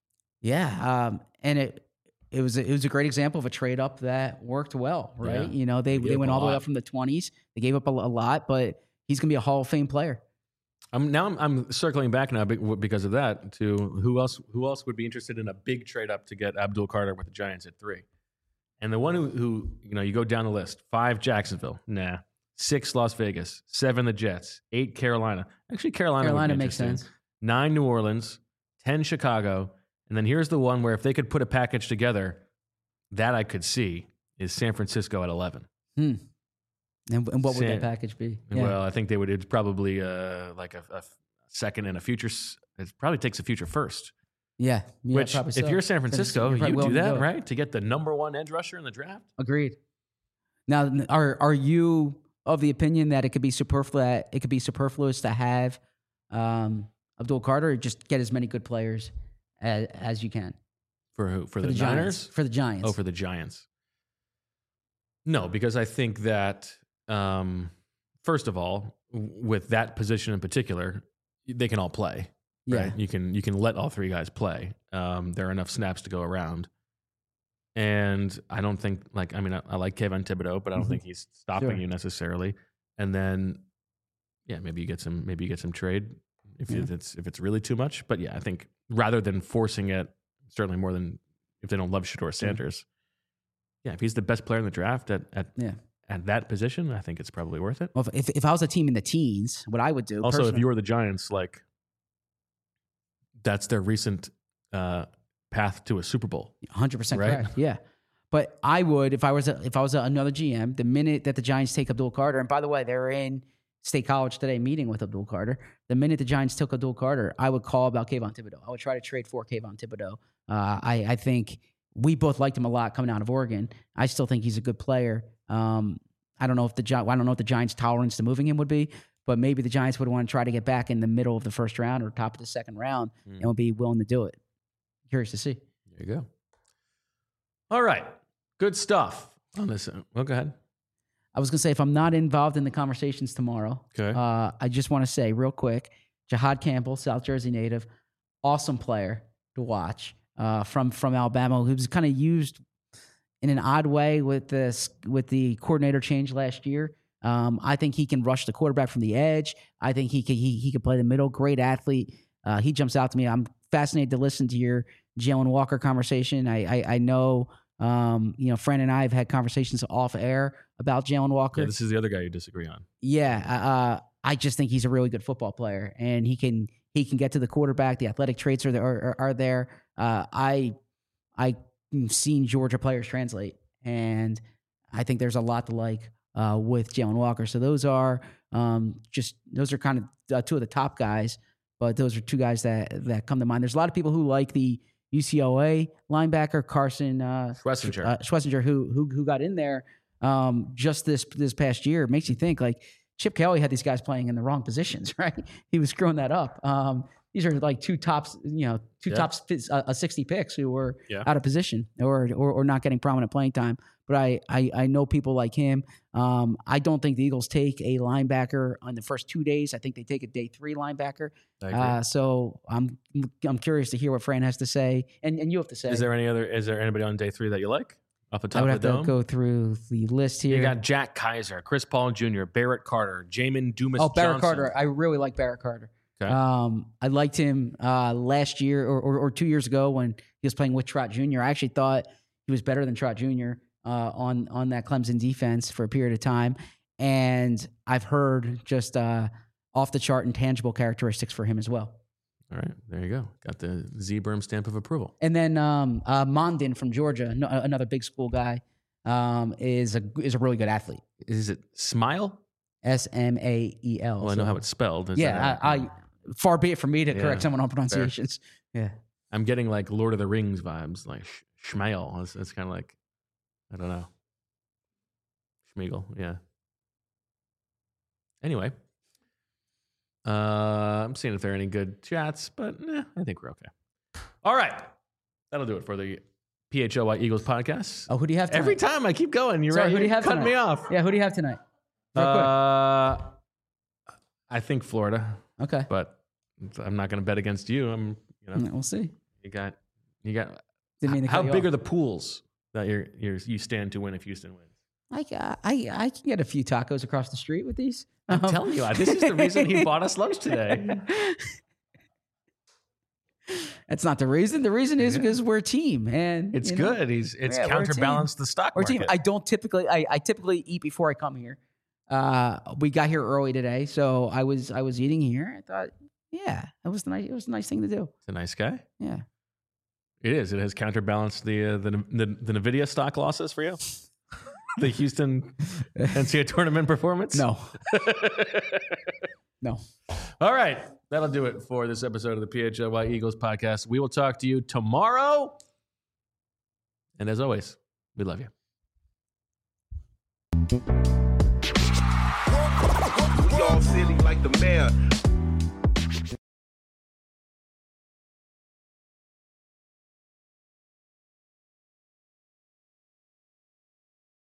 Yeah, um, and it it was a, it was a great example of a trade up that worked well, right? Yeah. You know, they They gave they up went a all the way lot. up from the twenties. They gave up a, a lot, but he's going to be a Hall of Fame player. I'm now I'm, I'm circling back now be- because of that to who else who else would be interested in a big trade up to get Abdul Carter with the Giants at three, and the one who, who you know you go down the list: five Jacksonville, nah, six Las Vegas, seven the Jets, eight Carolina. Actually, Carolina would be Carolina makes interesting. sense. Nine New Orleans, ten Chicago, and then here's the one where if they could put a package together, that I could see is San Francisco at eleven. Hmm. And, and what would San- that package be? Yeah. Well, I think they would. It's probably uh, like a, a second and a future. s- It probably takes a future first. yeah, yeah, Which, probably if so. you're San Because Francisco, you're probably you do willing to that, do it. right? To get the number one edge rusher in the draft. Agreed. Now, are are you of the opinion that it could be superfluous? It could be superfluous to have um, Abdul Carter, or just get as many good players as, as you can For who? For, for the, the, Niners? Giants. For the Giants. Oh, for the Giants. No, because I think that um, first of all, w- with that position in particular, they can all play. yeah. Right? You can you can let all three guys play. Um, there are enough snaps to go around. And I don't think like I mean I, I like Kevin Thibodeau, but I don't Mhm. think he's stopping Sure. you necessarily. And then yeah, maybe you get some maybe you get some trade if Yeah. it's if it's really too much. But yeah, I think rather than forcing it, certainly more than if they don't love Shador Sanders. Yeah, if he's the best player in the draft at at, Yeah. at that position, I think it's probably worth it. Well, if if I was a team in the teens, what I would do Also, if personally- you were the Giants, like that's their recent uh, path to a Super Bowl. one hundred percent Right? correct. Yeah. But I would, if I was a, if I was a, another G M, the minute that the Giants take Abdul Carter, and by the way, they're in State College today meeting with Abdul Carter. The minute the Giants took Abdul Carter, I would call about Kayvon Thibodeau. I would try to trade for Kayvon Thibodeau. Uh, I, I think we both liked him a lot coming out of Oregon. I still think he's a good player. Um, I don't know if the Gi- I don't know what the Giants' tolerance to moving him would be, but maybe the Giants would want to try to get back in the middle of the first round or top of the second round mm. and would be willing to do it. Curious to see. There you go. All right. Good stuff on this. Well, go ahead. I was going to say, if I'm not involved in the conversations tomorrow, okay. uh, I just want to say real quick, Jihad Campbell, South Jersey native, awesome player to watch uh, from from Alabama, who was kind of used in an odd way with this with the coordinator change last year. Um, I think he can rush the quarterback from the edge. I think he can he he can play the middle. Great athlete. Uh, he jumps out to me. I'm fascinated to listen to your Jalen Walker conversation. I I, I know. Um, you know, Fran and I have had conversations off air about Jalen Walker. Yeah, this is the other guy you disagree on. Yeah, uh, I just think he's a really good football player, and he can he can get to the quarterback. The athletic traits are there, are, are there. Uh, I I've seen Georgia players translate, and I think there's a lot to like uh, with Jalen Walker. So those are um, just those are kind of uh, two of the top guys, but those are two guys that that come to mind. There's a lot of people who like the U C L A linebacker Carson uh, Schwessinger, uh, Schwessinger who who who got in there um, just this this past year. It makes you think like Chip Kelly had these guys playing in the wrong positions, right? He was screwing that up. Um, these are like two tops, you know, two yeah. tops uh, sixty picks who were yeah. out of position or, or or not getting prominent playing time. But I I, I know people like him. Um, I don't think the Eagles take a linebacker on the first two days. I think they take a day three linebacker. Uh, so I'm I'm curious to hear what Fran has to say, and, and you have to say. Is there any other? Is there anybody on day three that you like off the top I would of the have dome? to go through the list here. You got Jack Kaiser, Chris Paul Junior, Barrett Carter, Jamin Dumas. Oh, Barrett Johnson. Carter. I really like Barrett Carter. Okay. Um, I liked him uh, last year or, or, or two years ago when he was playing with Trot Junior I actually thought he was better than Trot Junior Uh, on on that Clemson defense for a period of time, and I've heard just uh, off the chart intangible characteristics for him as well. All right, there you go. Got the Z-Berm stamp of approval. And then um, uh, Mondin from Georgia, no, another big school guy, um, is a is a really good athlete. Is it Smile? S M A E L. Well, I know how it's spelled. Is yeah, I, I far be it from me to yeah, correct someone on pronunciations. Fair. Yeah, I'm getting like Lord of the Rings vibes, like Schmeil. It's, it's kind of like, I don't know. Schmeagol, yeah. Anyway, uh, I'm seeing if there are any good chats, but eh, I think we're okay. All right. That'll do it for the P H O Y Eagles podcast. Oh, who do you have tonight? Every time I keep going, you're Sorry, right. Who do you have cutting tonight? me off. Yeah, who do you have tonight? Real uh, I think Florida. quick. Okay. But I'm not going to bet against you. I'm, you know, We'll see. you got, you got, Didn't mean to how cut you big off. are the pools that you're, you're, you stand to win if Houston wins? I, I, I can get a few tacos across the street with these. I'm Um, telling you, this is the reason he bought us lunch today. That's not the reason. The reason is Yeah. because we're a team, and It's you know, good. He's it's Yeah, we're a team. counterbalanced the stock We're a market. team. I don't typically. I, I typically eat before I come here. Uh, we got here early today, so I was I was eating here. I thought, yeah, it was nice. It was a nice thing to do. It's a nice guy. Yeah. It is. It has counterbalanced the uh, the, the the Nvidia stock losses for you. The Houston N C A A tournament performance. No. No. All right, that'll do it for this episode of the P H L Y Eagles podcast. We will talk to you tomorrow. And as always, we love you. We all silly like the mayor.